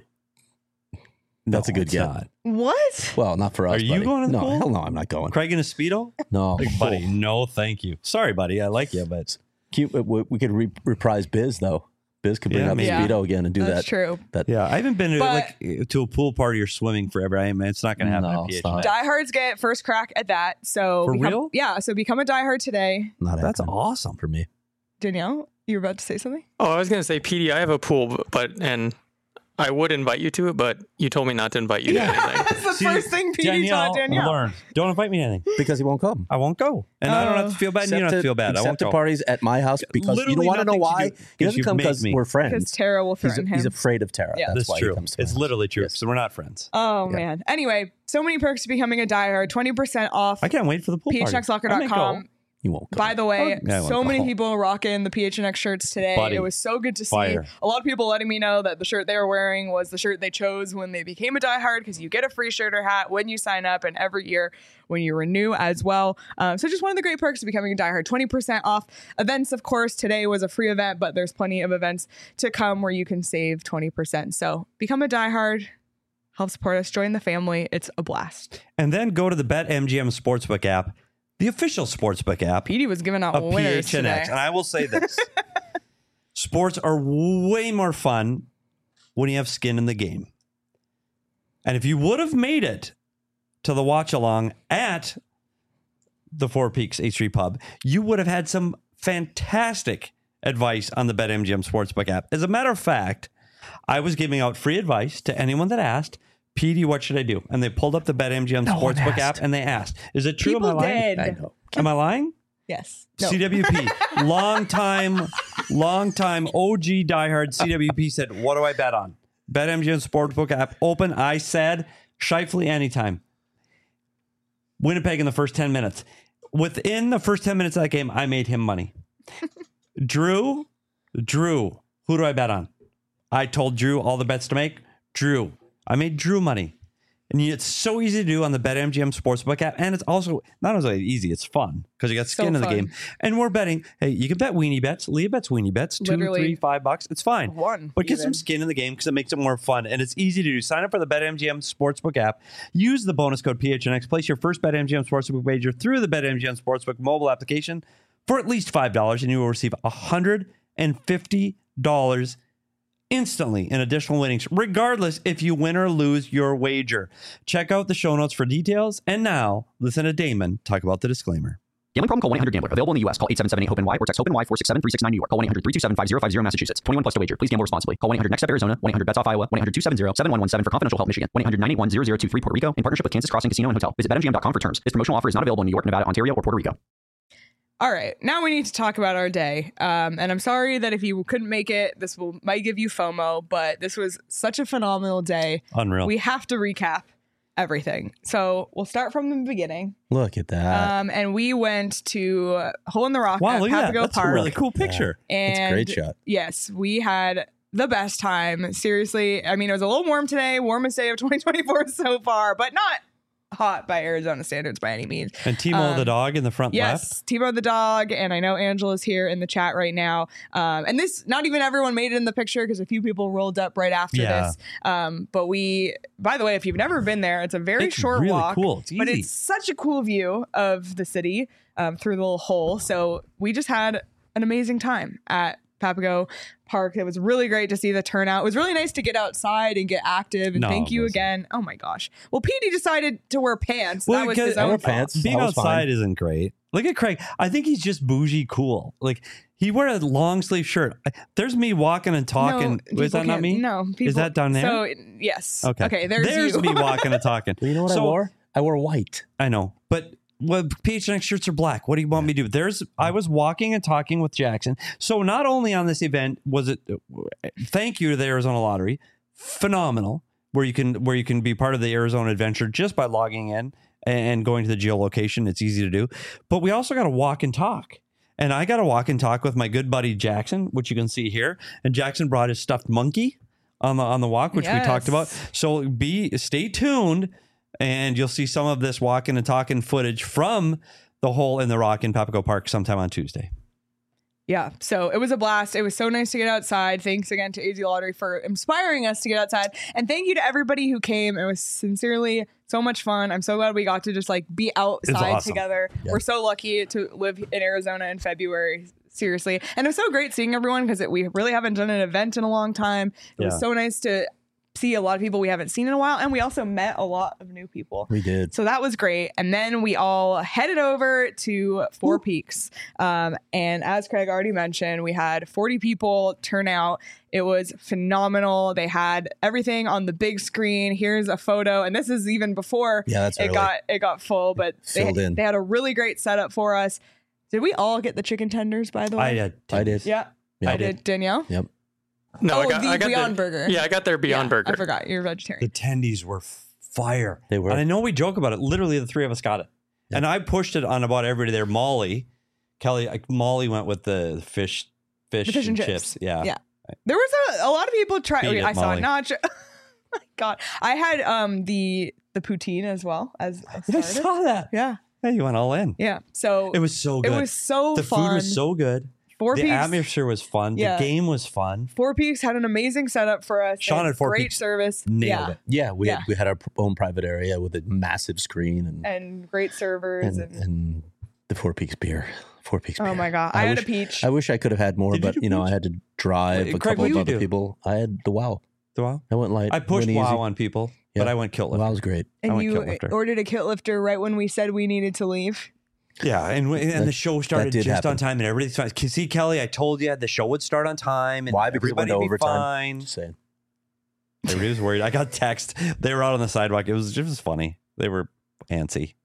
That's No, a good it's get. not. What? Well, not for us. Are you buddy. going to the no, pool? hell no, I'm not going. Craig in a Speedo? No, Like, buddy, no, thank you. Sorry, buddy. I like you, but Cute, we, we could re- reprise Biz though. Biz could bring Yeah, up maybe. the Speedo again and do That's that. true. That yeah, I haven't been to, But- like to a pool party or swimming forever. I mean, it's not going to happen No, at it's P H N X. not. Diehards get first crack at that. So For become, real? Yeah. So become a diehard today. not That's happening awesome. for me. Danielle, you were about to say something? Oh, I was gonna say, P D, I have a pool, but and I would invite you to it, but you told me not to invite you to anything. That's the See, first thing P D taught Danielle. learn. Don't invite me to anything. Because he won't come. I won't go, and I don't have Oh. to feel bad, and you don't have Except to feel bad. I except won't to go. parties at my house because you Literally don't want to know nothing to why. do, He 'cause doesn't you come make because me. we're Because friends. Tara will He's, threaten him. he's afraid of Tara. Yeah. That's That's why true. he comes to It's my house. literally true. Yes. So we're not friends. Oh, Yeah. man. Anyway, so many perks to becoming a diehard. twenty percent off. I can't wait for the pool P H party. X locker I dot may com. go. You won't come. By the way, Yeah, I so won't many go. people rocking the P H N X shirts today. Buddy. It was so good to see. Fire. A lot of people letting me know that the shirt they were wearing was the shirt they chose when they became a diehard, because you get a free shirt or hat when you sign up, and every year when you renew as well. Um, so just one of the great perks of becoming a diehard. twenty percent off events, of course. Today was a free event, but there's plenty of events to come where you can save twenty percent. So become a diehard. Help support us. Join the family. It's a blast. And then go to the BetMGM Sportsbook app, the official sportsbook app Petey was giving out of winners P H N X. today. And I will say this. Sports are way more fun when you have skin in the game. And if you would have made it to the watch along at the Four Peaks H three Pub, you would have had some fantastic advice on the BetMGM Sportsbook app. As a matter of fact, I was giving out free advice to anyone that asked, P D, what should I do? And they pulled up the BetMGM No one Sportsbook asked. app and they asked, is it true? People Am I lying? did. I know. Am I lying? Yes. No. C W P, long time, long time O G diehard C W P said, what do I bet on? BetMGM Sportsbook app open. I said, Scheifele anytime. Winnipeg in the first ten minutes. Within the first ten minutes of that game, I made him money. Drew, Drew, who do I bet on? I told Drew all the bets to make. Drew. I made Drew money. And it's so easy to do on the BetMGM Sportsbook app. And it's also not only easy, it's fun because you got skin So in the fun. game. And we're betting, hey, you can bet weenie bets. Leah bets weenie bets. Two, Literally three, five bucks. It's fine. One, But get even. some skin in the game because it makes it more fun. And it's easy to do. Sign up for the BetMGM Sportsbook app. Use the bonus code P H N X. Place your first BetMGM Sportsbook wager through the BetMGM Sportsbook mobile application for at least five dollars. And you will receive one hundred fifty dollars instantly in additional winnings, regardless if you win or lose your wager. Check out the show notes for details. And now, listen to Damon talk about the disclaimer. Gambling problem? Call one eight hundred gambler. Available in the U S. Call eight seven seven eight hope N Y or text HOPE-NY four six seven three six nine New York. Call one eight hundred three two seven five zero five zero Massachusetts. twenty-one plus to wager. Please gamble responsibly. Call one eight hundred next step Arizona. one eight hundred bets off Iowa. one eight hundred two seven zero seven one one seven for confidential help Michigan. one eight hundred nine eight one zero zero two three Puerto Rico in partnership with Kansas Crossing Casino and Hotel. Visit bet M G M dot com for terms. This promotional offer is not available in New York, Nevada, Ontario, or Puerto Rico. All right, now we need to talk about our day. Um, and I'm sorry that if you couldn't make it, this will might give you FOMO, but this was such a phenomenal day. Unreal. We have to recap everything. So we'll start from the beginning. Look at that. Um, and we went to Hole in the Rock wow, at look at that. Papago That's Park. a really cool picture. And That's a great shot. Yes, we had the best time. Seriously, I mean, it was a little warm today, warmest day of twenty twenty-four so far, but not hot by Arizona standards by any means. And Timo Um, the dog in the front Yes, left. Timo the dog, and I know Angela's here in the chat right now. Um, and this, not even everyone made it in the picture because a few people rolled up right after Yeah. this. Um, but we, by the way, if you've never been there, it's a very It's short really walk, cool. It's but easy. it's such a cool view of the city um, through the little hole. So we just had an amazing time at Papago Park. It was really great to see the turnout. It was really nice to get outside and get active. And No, thank it you wasn't. again. Oh my gosh. Well, Petey decided to wear pants. Well, that was because- his I own wear fault. pants. Being I was outside fine. isn't great. Look at Craig. I think he's just bougie cool. Like he wore a long sleeve shirt. I- There's me walking and talking. No, Is that people not can't- me? No. People, Is that down there? So, yes. Okay. Okay, there's, you. me walking and talking. Well, you know what I So- wore? I wore white. I know, but well, P H N X shirts are black. What do you want me to do? There's, I was walking and talking with Jackson. So not only on this event was it, thank you to the Arizona Lottery, phenomenal, where you can where you can be part of the Arizona Adventure just by logging in and going to the geolocation. It's easy to do, but we also got to walk and talk. And I got to walk and talk with my good buddy Jackson, which you can see here. And Jackson brought his stuffed monkey on the on the walk, which we talked about. Yes. So be stay tuned. And you'll see some of this walking and talking footage from the Hole in the Rock in Papago Park sometime on Tuesday. Yeah. So it was a blast. It was so nice to get outside. Thanks again to A Z Lottery for inspiring us to get outside. And thank you to everybody who came. It was sincerely so much fun. I'm so glad we got to just like be outside awesome. together. Yeah. We're so lucky to live in Arizona in February. Seriously. And it was so great seeing everyone because we really haven't done an event in a long time. It Yeah. was so nice to see a lot of people we haven't seen in a while. And we also met a lot of new people. We did. So that was great. And then we all headed over to Four Peaks. Um, and as Craig already mentioned, we had forty people turn out. It was phenomenal. They had everything on the big screen. Here's a photo. And this is even before Yeah, that's it early. got it got full, but they, Filled in. they had a really great setup for us. Did we all get the chicken tenders, by the way? I did. I did. Yeah. Yeah. I did. Danielle? Yep. No, oh, I got, the I got Beyond their, Burger. Yeah, I got their Beyond Yeah, Burger. I forgot. You're a vegetarian. The tendies were fire. They were. And I know we joke about it. Literally, the three of us got it. Yeah. And I pushed it on about everybody there. Molly, Kelly, like, Molly went with the fish, fish, The fish and and chips. chips. Yeah. Yeah. There was a, a lot of people try. Beat it, I saw Molly. not. oh my God, I had um the the poutine as well as a I starter. saw that. Yeah, Yeah, you went all in. yeah. So It was so it good. was so the fun. food was so good. Four the Peaks. atmosphere was fun. Yeah. The game was fun. Four Peaks had an amazing setup for us. Sean and at Four great Peaks service. nailed yeah. it. Yeah, we Yeah. had we had our own private area with a massive screen and and great servers. and, And, and the Four Peaks beer. Four Peaks beer. oh my God, I, had wish, a peach. I wish I could have had more, Did you but do you know, peach? I had to drive Wait, a Craig, couple what of did other you do? people. I had the wow. The wow. I went light. I pushed went easy. wow on people, but Yeah. I went kilt The lifter. wow was great. I and went you kilt lifter. ordered a kit lifter right when we said we needed to leave. Yeah, and and That- the show started did just happen. on time, and everything's fine. See, Kelly, I told you the show would start on time, and Why? Because it went everybody to would be overtime. fine. Just saying. Everybody was worried. I got text. They were out on the sidewalk. It was it was funny. They were antsy.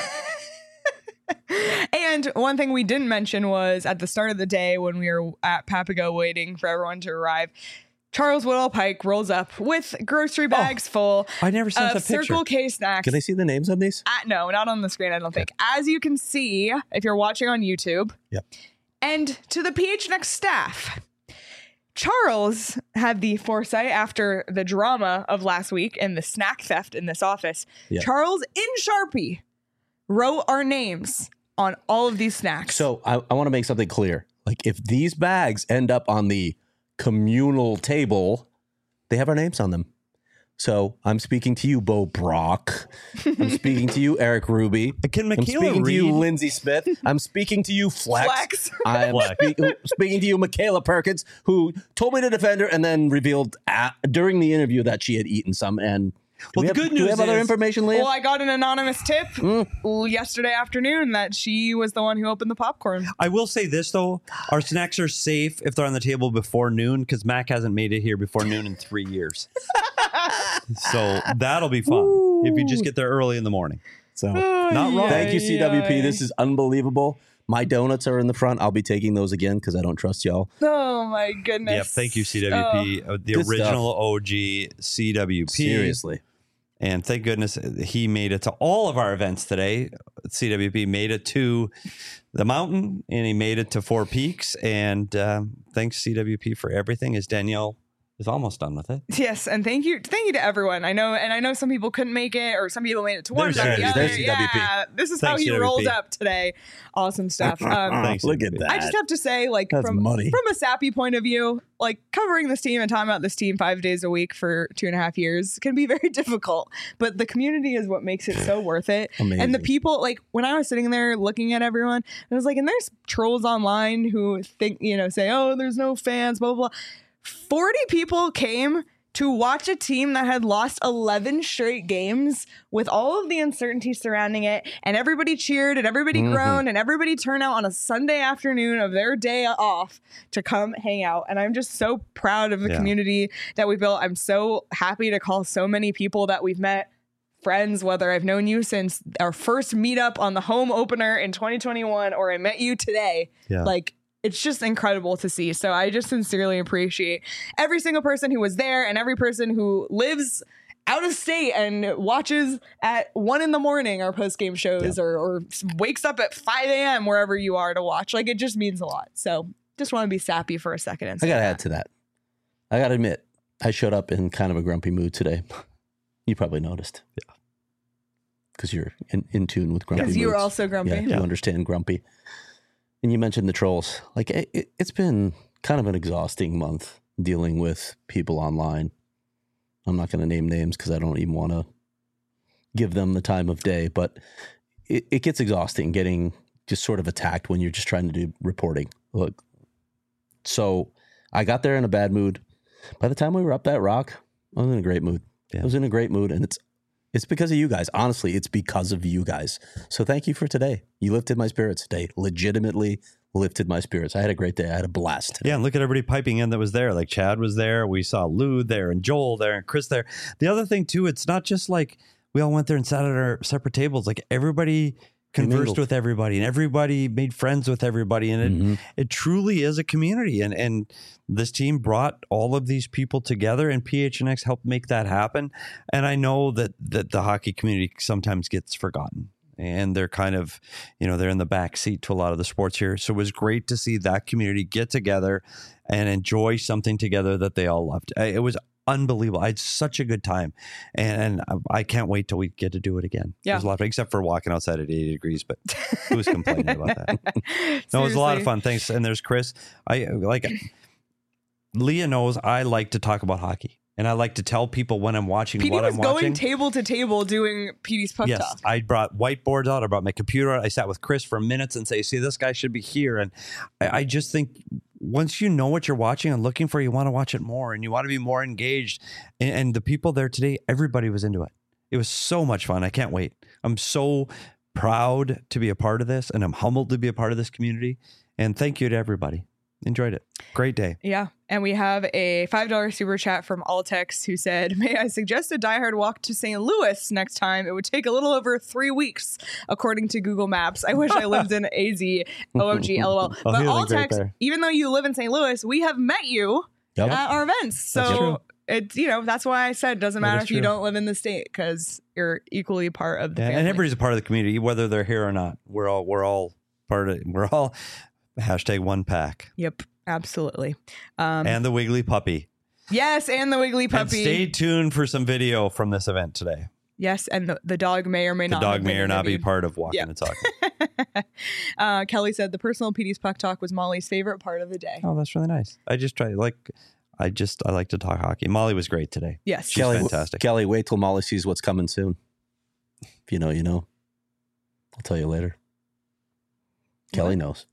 And one thing we didn't mention was at the start of the day when we were at Papago waiting for everyone to arrive, Charles Woodall Pike rolls up with grocery bags full I never sent of a picture. Circle K snacks. Can I see the names on these? Uh, no, not on the screen, I don't think. As you can see, if you're watching on YouTube, Yep. and to the P H N X staff, Charles had the foresight after the drama of last week and the snack theft in this office. Yep. Charles, in Sharpie, wrote our names on all of these snacks. So I, I want to make something clear. Like if these bags end up on the communal table, they have our names on them. So I'm speaking to you, Bo Brock. I'm speaking to you, Eric Ruby. Can I'm Michaela speaking to you, read? Lindsay Smith. I'm speaking to you, Flex. Flex. I am speak- speaking to you, Michaela Perkins, who told me to defend her and then revealed at, during the interview that she had eaten some. And do Well, we the have, good do we news have other is- information, Leah? Well, I got an anonymous tip Mm. yesterday afternoon that she was the one who opened the popcorn. I will say this though: our snacks are safe if they're on the table before noon, because Mac hasn't made it here before noon in three years. So that'll be fun if you just get there early in the morning. So Not wrong. thank you, C W P. This is unbelievable. My donuts are in the front. I'll be taking those again because I don't trust y'all. Oh my goodness. Yep. Thank you, C W P, uh, the Good original O G C W P. Seriously. And thank goodness he made it to all of our events today. C W P made it to the mountain and he made it to Four Peaks. And um, thanks, C W P, for everything. As Danielle is almost done with it. Yes, and thank you, thank you to everyone. I know, and I know some people couldn't make it, or some people made it to one, There's but the There's other. C W P. Yeah, this is how Thanks, he C W P. rolled up today. Awesome stuff. Um, Thanks, Look C at W P. that. I just have to say, like That's from money. from a sappy point of view, like covering this team and talking about this team five days a week for two and a half years can be very difficult. But the community is what makes it so worth it. Amazing. And the people, like when I was sitting there looking at everyone, I was like, and there's trolls online who think, you know, say, oh, there's no fans, blah blah blah. forty people came to watch a team that had lost eleven straight games with all of the uncertainty surrounding it, and everybody cheered and everybody Mhm. groaned and everybody turned out on a Sunday afternoon of their day off to come hang out. And I'm just so proud of the Yeah. community that we built. I'm so happy to call so many people that we've met friends, whether I've known you since our first meetup on the home opener in twenty twenty-one or I met you today. Yeah. Like, it's just incredible to see. So I just sincerely appreciate every single person who was there and every person who lives out of state and watches at one in the morning our post game shows or, or wakes up at five a.m. wherever you are to watch. Like, it just means a lot. So just want to be sappy for a second. And I say got to that. add to that. I got to admit, I showed up in kind of a grumpy mood today. You probably noticed. Yeah. Because you're in, in tune with grumpy Because moods. you were also grumpy. Yeah, you understand grumpy. And you mentioned the trolls. Like, it, it- it's been kind of an exhausting month dealing with people online. I'm not going to name names because I don't even want to give them the time of day, but it, it gets exhausting getting just sort of attacked when you're just trying to do reporting. Look, so I got there in a bad mood. By the time we were up that rock, I was in a great mood. Yeah. I was in a great mood, and it's it's because of you guys. Honestly, it's because of you guys. So thank you for today. You lifted my spirits today. Legitimately lifted my spirits. I had a great day. I had a blast. Yeah, and look at everybody piping in that was there. Like Chad was there. We saw Lou there and Joel there and Chris there. The other thing too, it's not just like we all went there and sat at our separate tables. Like everybody conversed mingled. with everybody and everybody made friends with everybody. And it, Mhm. it truly is a community. And and this team brought all of these people together and P H N X helped make that happen. And I know that that the hockey community sometimes gets forgotten. And they're kind of, you know, they're in the back seat to a lot of the sports here. So it was great to see that community get together and enjoy something together that they all loved. I- It was unbelievable. I had such a good time. And, and I, I can't wait till we get to do it again. Yeah. It was a lot of fun, except for walking outside at eighty degrees, but who was complaining about that? No, it was a lot of Seriously. fun. Thanks. And there's Chris. I like Leah knows I like to talk about hockey. And I like to tell people when I'm watching P D what was I'm going watching. table to table doing P D's puck Yes, talk. I brought whiteboards out. I brought my computer out. I sat with Chris for minutes and say, see, this guy should be here. And I, I just think once you know what you're watching and looking for, you want to watch it more and you want to be more engaged. And, and the people there today, everybody was into it. It was so much fun. I can't wait. I'm so proud to be a part of this, and I'm humbled to be a part of this community. And thank you to everybody. Enjoyed it. Great day. Yeah. And we have a five dollars super chat from Altex who said, may I suggest a diehard walk to Saint Louis next time? It would take a little over three weeks, according to Google Maps. I wish I lived in A Z. O M G, LOL. Oh, But he lives right Altex, there. even though you live in Saint Louis, we have met you Yep. at our events. That's So true. it's, you know, that's why I said it doesn't That matter is if you true. don't live in the state because you're equally part of the Yeah, family. and everybody's a part of the community, whether they're here or not. We're all we're all part of it. We're all hashtag one pack. Yep. Absolutely. Um, And the Wiggly Puppy. yes. And the Wiggly And Puppy. stay tuned for some video from this event today. Yes. And the, the dog may or may The not. dog have may been or not be interviewed. part of Walking Yeah. and Talking. uh, Kelly said the personal P D's Puck Talk was Molly's favorite part of the day. Oh, that's really nice. I just try like I just I like to talk hockey. Molly was great today. Yes. She's Kelly, fantastic. Kelly, wait till Molly sees what's coming soon. If you know, you know. I'll tell you later. Kelly knows.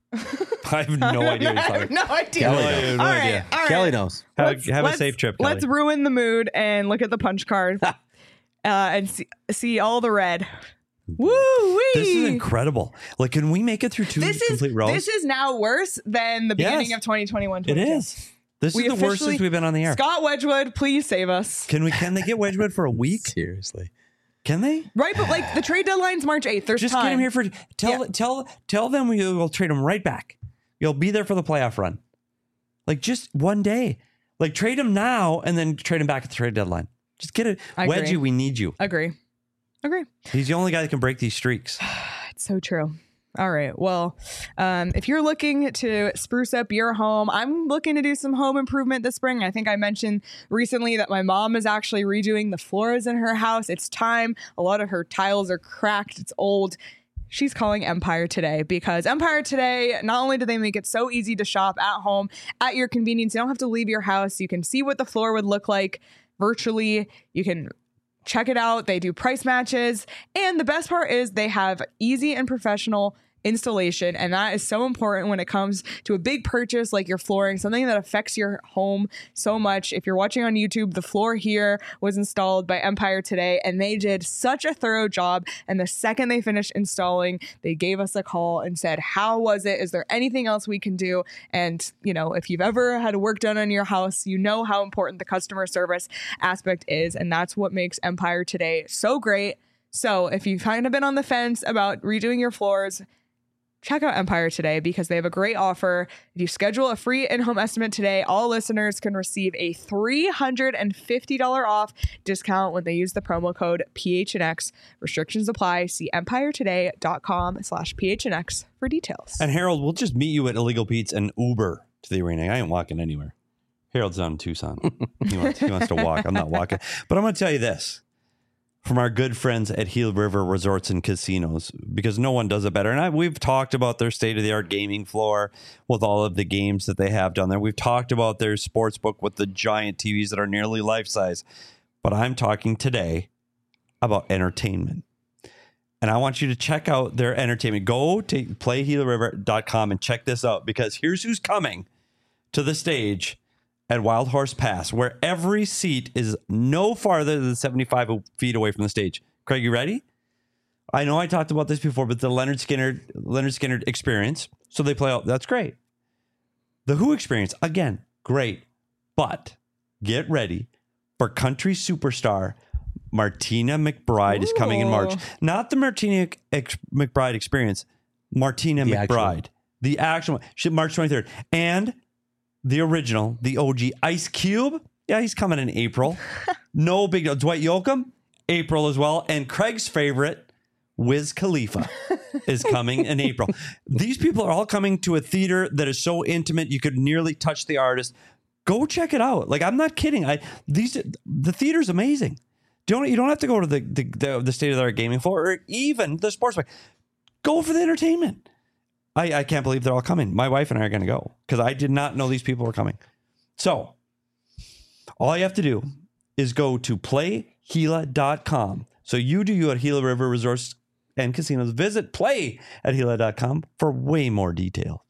I have no idea what you're I talking have no idea. Kelly I knows. have no all idea. right. All right. Kelly knows. Have, Let's- have a let's- safe trip, Kelly. Let's ruin the mood and look at the punch card uh, and see, see all the red. Woo wee. This is incredible. Like, can we make it through two This is complete rows? this is now worse than the Yes. beginning of twenty twenty-one. it is. This We is the worst officially- since we've been on the air. Scott Wedgwood, please save us. Can we? Can they get Wedgwood for a week? Seriously. Can they? Right, but like the trade deadline's March eighth. There's Just time. get him here for tell Yeah. tell tell them we will trade him right back. You'll be there for the playoff run. Like just one day. Like trade him now and then trade him back at the trade deadline. Just get it. I agree. Wedgie, we need you. Agree. Agree. He's the only guy that can break these streaks. It's so true. All right. Well, um, if you're looking to spruce up your home, I'm looking to do some home improvement this spring. I think I mentioned recently that my mom is actually redoing the floors in her house. It's time. A lot of her tiles are cracked. It's old. She's calling Empire Today because Empire Today, not only do they make it so easy to shop at home at your convenience, you don't have to leave your house. You can see what the floor would look like virtually. You can check it out. They do price matches. And the best part is they have easy and professional installation. And that is so important when it comes to a big purchase like your flooring, something that affects your home so much. If you're watching on YouTube, the floor here was installed by Empire Today, and they did such a thorough job. And the second they finished installing, they gave us a call and said, how was it? Is there anything else we can do? And, you know, if you've ever had work done on your house, you know how important the customer service aspect is. And that's what makes Empire Today so great. So if you've kind of been on the fence about redoing your floors, check out Empire Today because they have a great offer. If you schedule a free in-home estimate today, all listeners can receive a three hundred fifty dollars off discount when they use the promo code P H N X. Restrictions apply. See empiretoday.com slash PHNX for details. And Harold, we'll just meet you at Illegal Pete's and Uber to the arena. I ain't walking anywhere. Harold's down in Tucson. he, wants, he wants to walk. I'm not walking. But I'm going to tell you this. From our good friends at Gila River Resorts and Casinos, because no one does it better. And I, we've talked about their state-of-the-art gaming floor with all of the games that they have down there. We've talked about their sports book with the giant T Vs that are nearly life-size. But I'm talking today about entertainment. And I want you to check out their entertainment. Go to play gila river dot com and check this out, because here's who's coming to the stage at Wild Horse Pass, where every seat is no farther than seventy-five feet away from the stage. Craig, you ready? I know I talked about this before, but the Leonard Skinner Leonard Skinner experience. So they play out. That's great. The Who experience, again, great. But get ready for country superstar Martina McBride is coming in March. Ooh. Not the Martina ex- McBride experience. Martina The McBride. actual. The actual one. She- March twenty-third. And the original, the O G Ice Cube. Yeah, he's coming in April. No big deal. Dwight Yoakam, April as well. And Craig's favorite, Wiz Khalifa, is coming in April. These people are all coming to a theater that is so intimate you could nearly touch the artist. Go check it out. Like, I'm not kidding. I these the theater's amazing. Don't you don't have to go to the the, the, the state of the art gaming floor or even the sports bar. Go for the entertainment. I, I can't believe they're all coming. My wife and I are going to go because I did not know these people were coming. So all you have to do is go to play gila dot com. So you do you at Gila River Resorts and Casinos. Visit play at gila dot com for way more detail.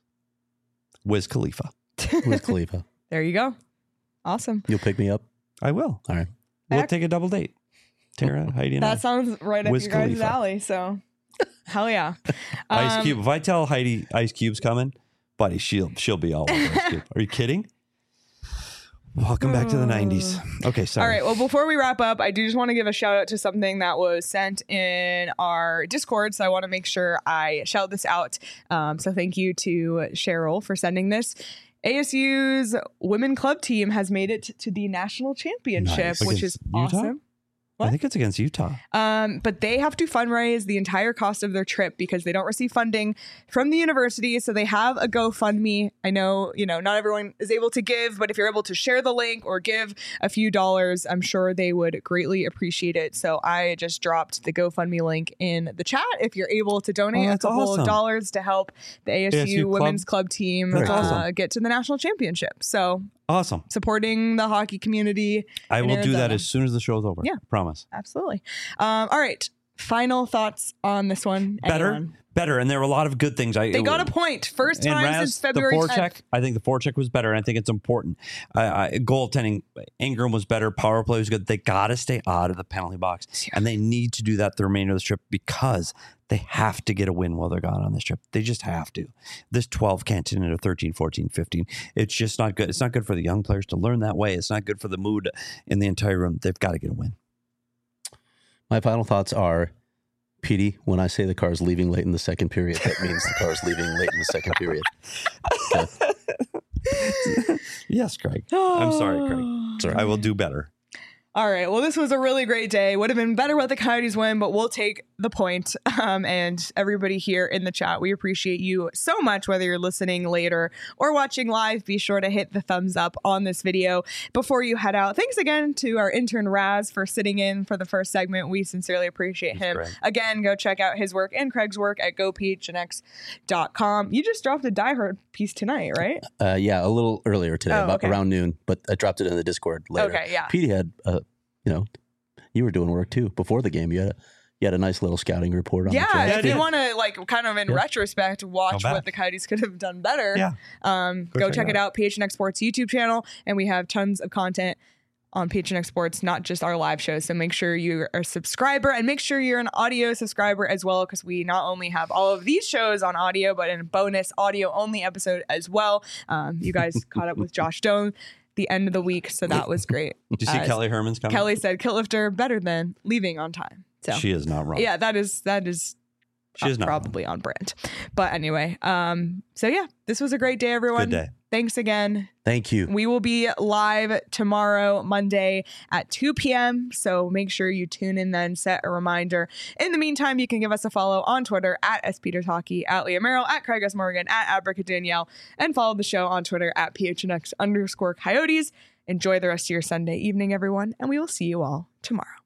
Wiz Khalifa. Wiz Khalifa. There you go. Awesome. You'll pick me up. I will. All right. We'll Heck. take a double date. Tara, Heidi, and I. That sounds right up Wiz your guys' Khalifa. alley. So Hell yeah. Ice Um, Cube. If I tell Heidi Ice Cube's coming, buddy, she'll she'll be all over Ice Cube. Are you kidding? Welcome back to the nineties. Okay, sorry. All right. Well, before we wrap up, I do just want to give a shout out to something that was sent in our Discord. So I want to make sure I shout this out. Um, so thank you to Cheryl for sending this. A S U's women club team has made it to the national championship, Nice. which Against is Utah? awesome. I think it's against Utah. Um, but they have to fundraise the entire cost of their trip because they don't receive funding from the university. So they have a GoFundMe. I know, you know, not everyone is able to give, but if you're able to share the link or give a few dollars, I'm sure they would greatly appreciate it. So I just dropped the GoFundMe link in the chat. If you're able to donate Oh, a that's couple awesome. of dollars to help the A S U, A S U women's club. club team That's uh, awesome. get to the national championship. So Awesome. supporting the hockey community. I in will do that Arizona. as soon as the show's over. Yeah. Promise. Absolutely. Um, all right. Final thoughts on this one. Better. Anyone? Better. And there were a lot of good things. I They got a point. First And time Raz, since February the tenth. forecheck, I think the forecheck was better, and I think it's important. Uh, I, goaltending, Ingram was better. Power play was good. They got to stay out of the penalty box, and they need to do that the remainder of the trip because they have to get a win while they're gone on this trip. They just have to. This twelve can't turn into thirteen, fourteen, fifteen. It's just not good. It's not good for the young players to learn that way. It's not good for the mood in the entire room. They've got to get a win. My final thoughts are, Petey, when I say the car's leaving late in the second period, that means the car's leaving late in the second period. Okay. Yes, Craig. I'm sorry, Craig. Sorry. I will do better. All right. Well, this was a really great day. Would have been better with the Coyotes win, but we'll take the point. Um, and everybody here in the chat, we appreciate you so much, whether you're listening later or watching live. Be sure to hit the thumbs up on this video before you head out. Thanks again to our intern Raz for sitting in for the first segment. We sincerely appreciate Thanks, him. Greg. Again, go check out his work and Craig's work at go p h n x dot com. You just dropped a Die Hard piece tonight, right? Uh, yeah, a little earlier today, Oh, about okay. around noon, but I dropped it in the Discord later. Okay, yeah. Petey had, uh, you know, you were doing work too before the game. You had a, you had a nice little scouting report on Yeah, the if draft. you want to like kind of in Yeah. retrospect watch Go what back. the Coyotes could have done better, Yeah. um, Go go, check check it it out. P H N X Sports YouTube channel, and we have tons of content on P H N X Sports, not just our live shows. So make sure you're a subscriber and make sure you're an audio subscriber as well, because we not only have all of these shows on audio, but in a bonus audio only episode as well. Um, you guys caught up with Josh Doan the end of the week, so that was great. Did you see As Kelly Herman's comment? Kelly said, "Kitlifter better than leaving on time." So She is not wrong. yeah, that is that is She is uh, not probably on brand. But anyway, um, so yeah, this was a great day, everyone. Good day. Thanks again. Thank you. We will be live tomorrow, Monday at two p.m. So make sure you tune in then, set a reminder. In the meantime, you can give us a follow on Twitter at S Peters Hockey, at Leah Merrill, at Craig S. Morgan, at Abrica Danielle, and follow the show on Twitter at P H N X underscore Coyotes. Enjoy the rest of your Sunday evening, everyone, and we will see you all tomorrow.